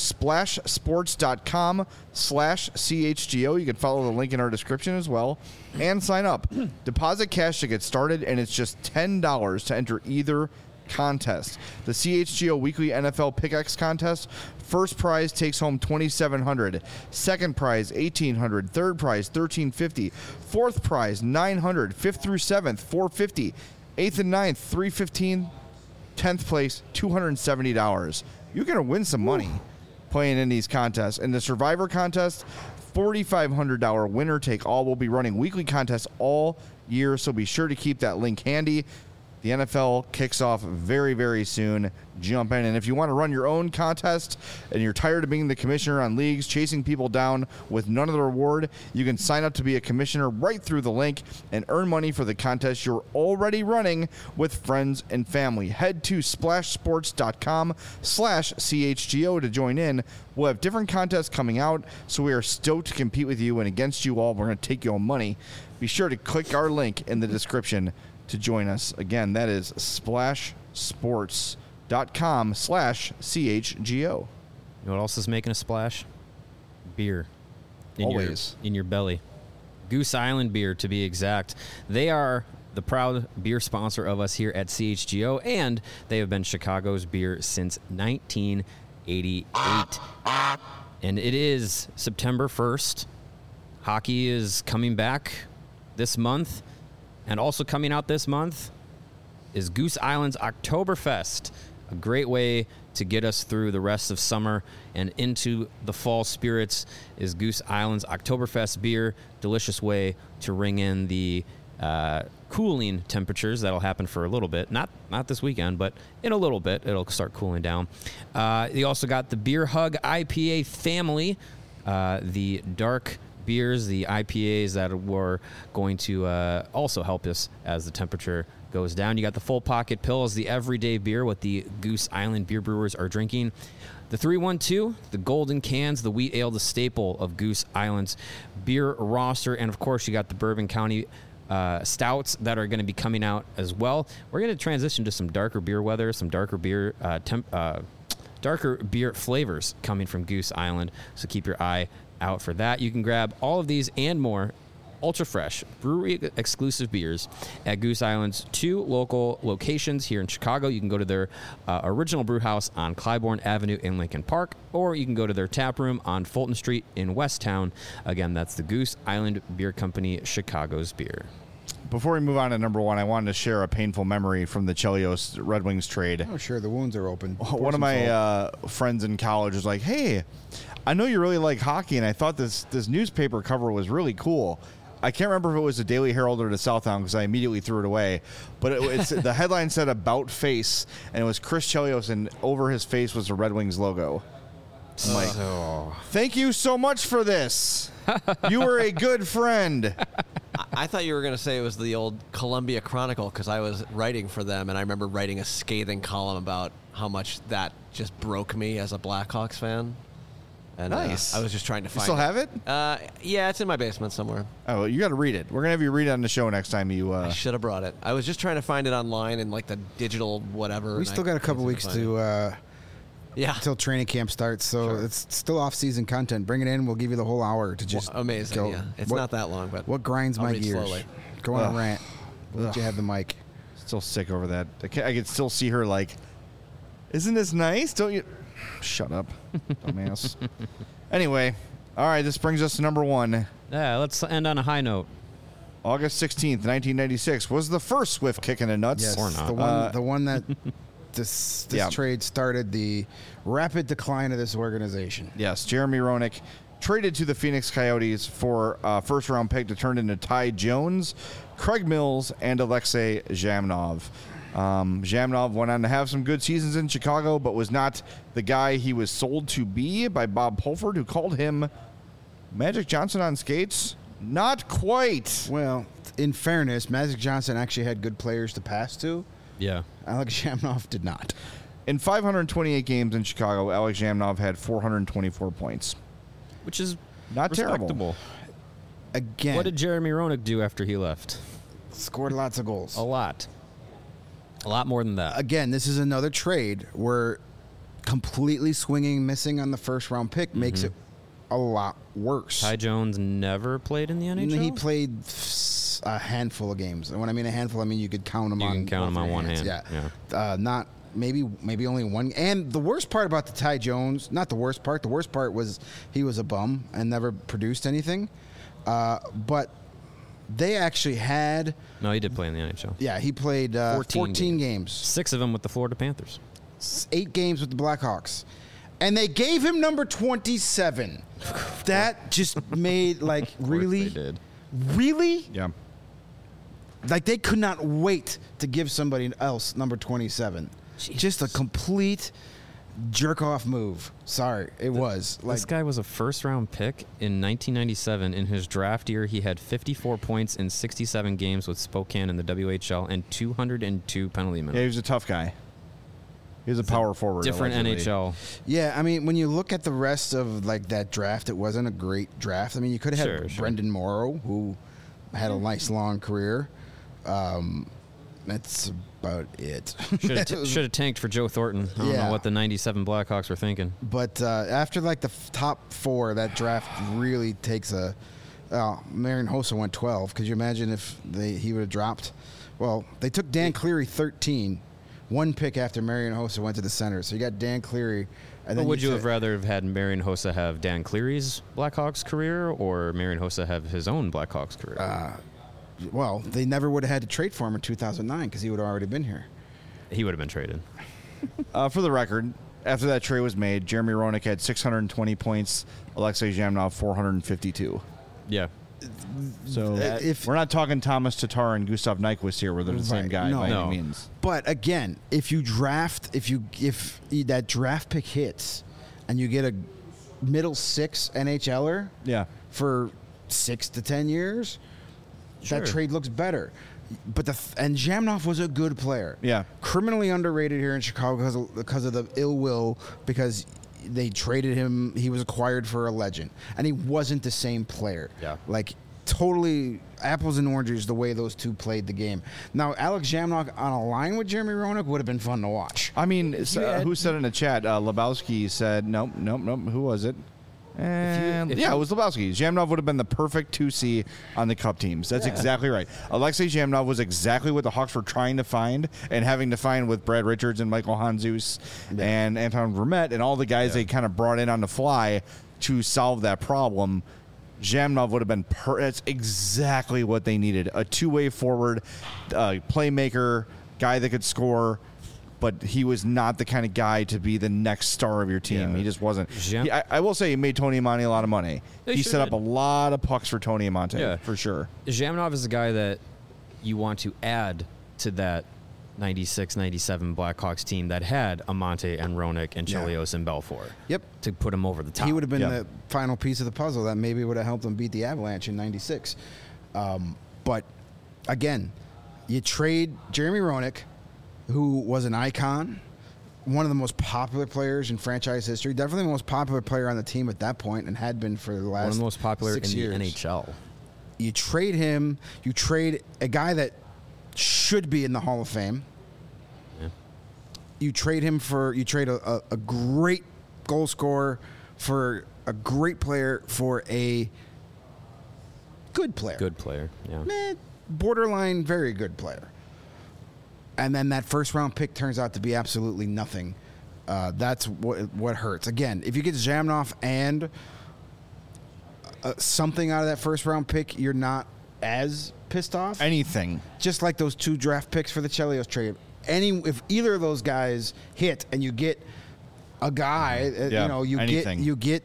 splashsports.com/CHGO. You can follow the link in our description as well and sign up. Deposit cash to get started, and it's just $10 to enter either contest. The CHGO Weekly NFL Pickaxe Contest. First prize takes home $2,700. Second prize $1,800. Third prize $1,350. Fourth prize $900. Fifth through seventh $450. Eighth and ninth $315. 10th place $270. You're gonna win some money playing in these contests. In the Survivor contest, $4,500 winner take all. Will be running weekly contests all year, so be sure to keep that link handy. The NFL kicks off very, very soon. Jump in. And if you want to run your own contest and you're tired of being the commissioner on leagues, chasing people down with none of the reward, you can sign up to be a commissioner right through the link and earn money for the contest you're already running with friends and family. Head to splashsports.com/CHGO to join in. We'll have different contests coming out, so we are stoked to compete with you, and against you all, we're going to take your money. Be sure to click our link in the description to join us. Again, that is splashsports.com/CHGO. You know what else is making a splash? Beer. Always. In your belly. Goose Island Beer, to be exact. They are the proud beer sponsor of us here at CHGO, and they have been Chicago's beer since 1988. And it is September 1st. Hockey is coming back this month. And also coming out this month is Goose Island's Oktoberfest, a great way to get us through the rest of summer and into the fall spirits is Goose Island's Oktoberfest beer. Delicious way to ring in the cooling temperatures. That'll happen for a little bit. Not this weekend, but in a little bit, it'll start cooling down. You also got the Beer Hug IPA family, the dark beers, the IPAs that were going to also help us as the temperature goes down. You got the Full Pocket Pills, the everyday beer, what the Goose Island beer brewers are drinking. The 312, the golden cans, the wheat ale, the staple of Goose Island's beer roster. And, of course, you got the Bourbon County stouts that are going to be coming out as well. We're going to transition to some darker beer weather, some darker beer darker beer flavors coming from Goose Island. So keep your eye out for that. You can grab all of these and more ultra fresh brewery exclusive beers at Goose Island's 2 local locations here in Chicago. You can go to their original brew house on Clybourne Avenue in Lincoln Park, or you can go to their tap room on Fulton Street in Westtown. Again, that's the Goose Island Beer Company, Chicago's beer. Before we move on to number one, I wanted to share a painful memory from the Chelios Red Wings trade. Oh, sure. The wounds are open. One of my friends in college was like, hey, I know you really like hockey, and I thought this newspaper cover was really cool. I can't remember if it was the Daily Herald or the Southhound because I immediately threw it away. But it's the headline said "About Face," and it was Chris Chelios, and over his face was the Red Wings logo. I'm like, thank you so much for this. You were a good friend. I thought you were going to say it was the old Columbia Chronicle because I was writing for them, and I remember writing a scathing column about how much that just broke me as a Blackhawks fan. And, nice. I was just trying to find You still have it? Yeah, it's in my basement somewhere. Oh, you got to read it. We're going to have you read it on the show next time you... I should have brought it. I was just trying to find it online in like the digital whatever. We still got a couple weeks to Yeah. until training camp starts. So it's still off-season content. Bring it in. We'll give you the whole hour to just Amazing. go. Yeah. It's What- not that long, but What grinds I'll my read gears? slowly. Go on Ugh. a rant. We'll let you have the mic. Still sick over that. I can still see her like, isn't this nice? Don't you? Shut up, dumbass. Anyway, all right. This brings us to number 1. Yeah, let's end on a high note. August 16th, 1996 was the first Swift kick in the nuts. Yes, Or not. the one that this Yeah. trade started the rapid decline of this organization. Yes, Jeremy Roenick traded to the Phoenix Coyotes for a first-round pick to turn into Ty Jones, Craig Mills, and Alexei Zhamnov. Zhamnov went on to have some good seasons in Chicago, but was not the guy he was sold to be by Bob Pulford, who called him Magic Johnson on skates. Not quite. Well, in fairness, Magic Johnson actually had good players to pass to. Yeah. Alex Shamnoff did not. In 528 games in Chicago, Alex Zhamnov had 424 points. Which is Not terrible. respectable. Again, What did Jeremy Roenick do after he left? scored lots of goals. A lot. A lot more than that. Again, this is another trade where completely swinging, missing on the first round pick makes it a lot worse. Ty Jones never played in the NHL? He played a handful of games. And when I mean a handful, I mean you could count them You on can count both them on your one hands. hand, Not maybe only one. And the worst part about the Ty Jones, not the worst part. The worst part was he was a bum and never produced anything. But they actually had. No, he did play in the NHL. Yeah, he played 14 games. 6 of them with the Florida Panthers. 8 games with the Blackhawks. And they gave him number 27. That just made, like, really? They did. Really? Yeah. Like, they could not wait to give somebody else number 27. Just a complete jerk-off move. Sorry, it was. Like, This guy was a first-round pick in 1997. In his draft year, he had 54 points in 67 games with Spokane in the WHL and 202 penalty Yeah, he minutes. was a tough guy. He was a power forward. Different allegedly. NHL. yeah, I mean, when you look at the rest of, like, that draft, it wasn't a great draft. I mean, you could have had Sure. Brendan Morrow, who had a nice, long career. That's about it. Should have tanked for Joe Thornton. I don't Yeah. know what the 97 Blackhawks were thinking. But after like the top 4, that draft really takes a. Marion Hossa went 12. Could you imagine if he would have dropped? Well, they took Dan Cleary 13, one pick after Marion Hossa went to the center. So you got Dan Cleary. And But then would you said- have rather have had Marion Hossa have Dan Cleary's Blackhawks career or Marion Hossa have his own Blackhawks career? Well, they never would have had to trade for him in 2009 because he would have already been here. He would have been traded. For the record, after that trade was made, Jeremy Roenick had 620 points, Alexei Zhamnov 452. Yeah. So If- we're not talking Thomas Tatar and Gustav Nyquist here, where they're the same Right. guy No. by No. any means. But again, if that draft pick hits and you get a middle 6 NHLer Yeah. for 6 to 10 years, Sure. that trade looks better. But and Zhamnov was a good player. Yeah. Criminally underrated here in Chicago because of the ill will, because they traded him. He was acquired for a legend, and he wasn't the same player. Yeah. Like totally apples and oranges the way those two played the game. Now Alex Zhamnov on a line with Jeremy Roenick would have been fun to watch. I mean, who said in the chat? Lebowski said, nope. Who was it? And if yeah, you- it was Lebowski. Zhamnov would have been the perfect 2C on the Cup teams. That's exactly right. Alexei Zhamnov was exactly what the Hawks were trying to find and having to find with Brad Richards and Michael Hanzus and Anton Vermette and all the guys they kind of brought in on the fly to solve that problem. Zhamnov would have been that's exactly what they needed. A two-way forward, playmaker, guy that could score, but he was not the kind of guy to be the next star of your team. Yeah. He just wasn't. Yeah. I will say he made Tony Amonte a lot of money. He He sure set up did. a lot of pucks for Tony Amonte, Yeah. for sure. Zhamnov is a guy that you want to add to that 96-97 Blackhawks team that had Amante and Roenick and Yeah. Chelios and Belfour. Yep. To put him over the top. He would have been Yeah. the final piece of the puzzle that maybe would have helped them beat the Avalanche in '96. But again, you trade Jeremy Roenick, who was an icon, one of the most popular players in franchise history, definitely the most popular player on the team at that point, and had been for the last one of the most popular 6 in years. the NHL. You trade him. You trade a guy that should be in the Hall of Fame. Yeah. you trade a great goal scorer for a great player for a good player. Good player, yeah. Borderline very good player. And then that first round pick turns out to be absolutely nothing. That's what hurts. Again, if you get Zhamnov and something out of that first round pick, you're not as pissed off. Anything. Just like those 2 draft picks for the Chelios trade. If either of those guys hit and you get a guy, you get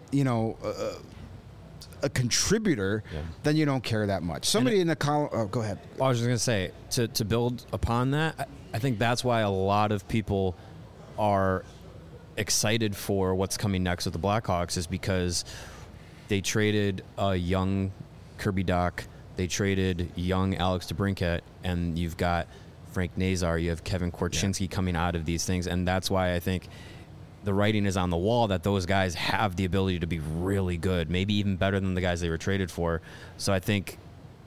a contributor, then you don't care that much. Somebody in the column. Oh, go ahead. I was just gonna say to build upon that. I think that's why a lot of people are excited for what's coming next with the Blackhawks is because they traded a young Kirby Dach, they traded young Alex DeBrincat, and you've got Frank Nazar, you have Kevin Korchinski coming out of these things, and that's why I think the writing is on the wall that those guys have the ability to be really good, maybe even better than the guys they were traded for. So I think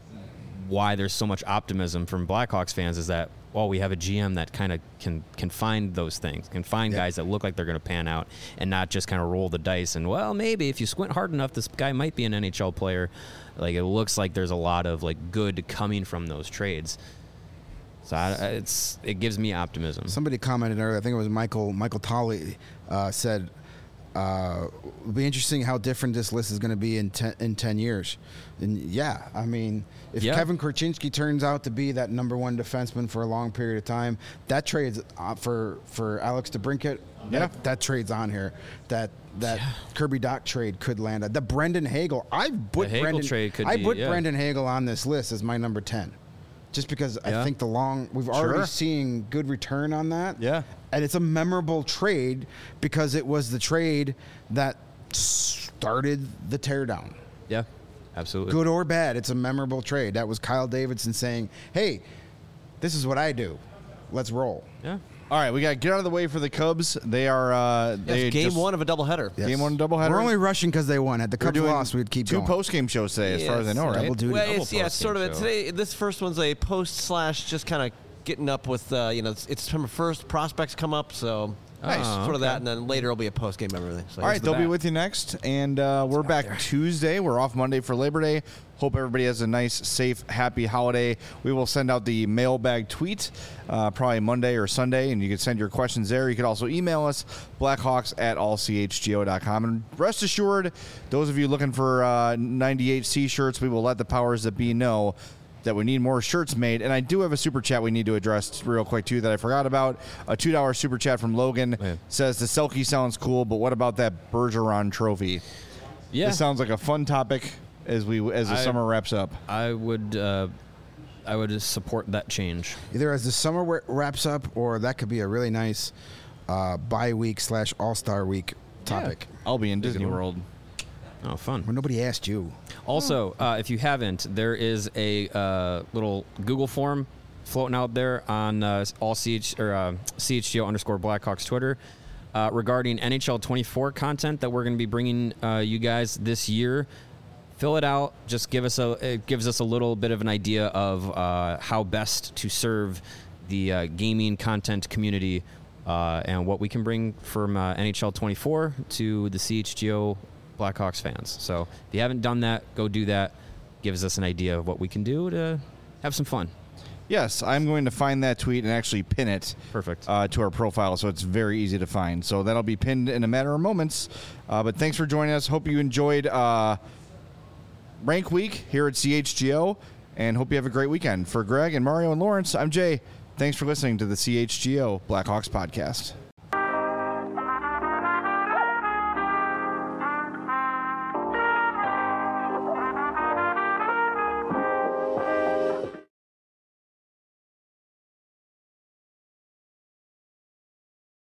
why there's so much optimism from Blackhawks fans is that, well, we have a GM that kind of can find those things, can find guys that look like they're going to pan out and not just kind of roll the dice. And, well, maybe if you squint hard enough, this guy might be an NHL player. Like, it looks like there's a lot of, like, good coming from those trades. So it gives me optimism. Somebody commented earlier, I think it was Michael Tolley, said, it'll be interesting how different this list is going to be in 10 years. And I mean, if Kevin Korchinski turns out to be that number 1 defenseman for a long period of time, that trades for Alex DeBrincat. That trade's on here. That Kirby Dach trade could land. The Brendan Hagel. I put Brendan Hagel on this list as my number 10. Just because I think we've already seen good return on that. Yeah. And it's a memorable trade because it was the trade that started the teardown. Yeah, absolutely. Good or bad, it's a memorable trade. That was Kyle Davidson saying, hey, this is what I do. Let's roll. Yeah. All right, we got to get out of the way for the Cubs. They are game 1 of a doubleheader. Yes. Game 1 doubleheader. We're only rushing because they won. Had the Cubs lost, we'd keep 2 going. 2 post-game shows today, as far as I know, right? Double duty. Well, it's sort of. Today, this first one's a post / just kind of getting up with, it's September 1st. Prospects come up, so Nice. Sort of that, and then later it'll be a post game everything. So all right, they'll be with you next, and we're back Tuesday. We're off Monday for Labor Day. Hope everybody has a nice, safe, happy holiday. We will send out the mailbag tweet probably Monday or Sunday, and you can send your questions there. You can also email us, blackhawks@allchgo.com. And rest assured, those of you looking for 98C shirts, we will let the powers that be know that we need more shirts made. And I do have a super chat we need to address real quick, too, that I forgot about. A $2 super chat from Logan says, the Selke sounds cool, but what about that Bergeron trophy? Yeah. This sounds like a fun topic as the summer wraps up. I would support that change. Either as the summer wraps up, or that could be a really nice bye week / All-Star week topic. Yeah. I'll be in Disney World. Oh, fun. Well, nobody asked you. Also, if you haven't, there is a little Google form floating out there on CHGO_Blackhawks Twitter regarding NHL 24 content that we're going to be bringing you guys this year. Fill it out. Just it gives us a little bit of an idea of how best to serve the gaming content community and what we can bring from NHL 24 to the CHGO Blackhawks fans. So if you haven't done that, go do that. Gives us an idea of what we can do to have some fun. Yes, I'm going to find that tweet and actually pin it Perfect. To our profile, so it's very easy to find. So that'll be pinned in a matter of moments. But thanks for joining us. Hope you enjoyed Rank Week here at CHGO, and hope you have a great weekend. For Greg and Mario and Lawrence, I'm Jay. Thanks for listening to the CHGO Blackhawks podcast.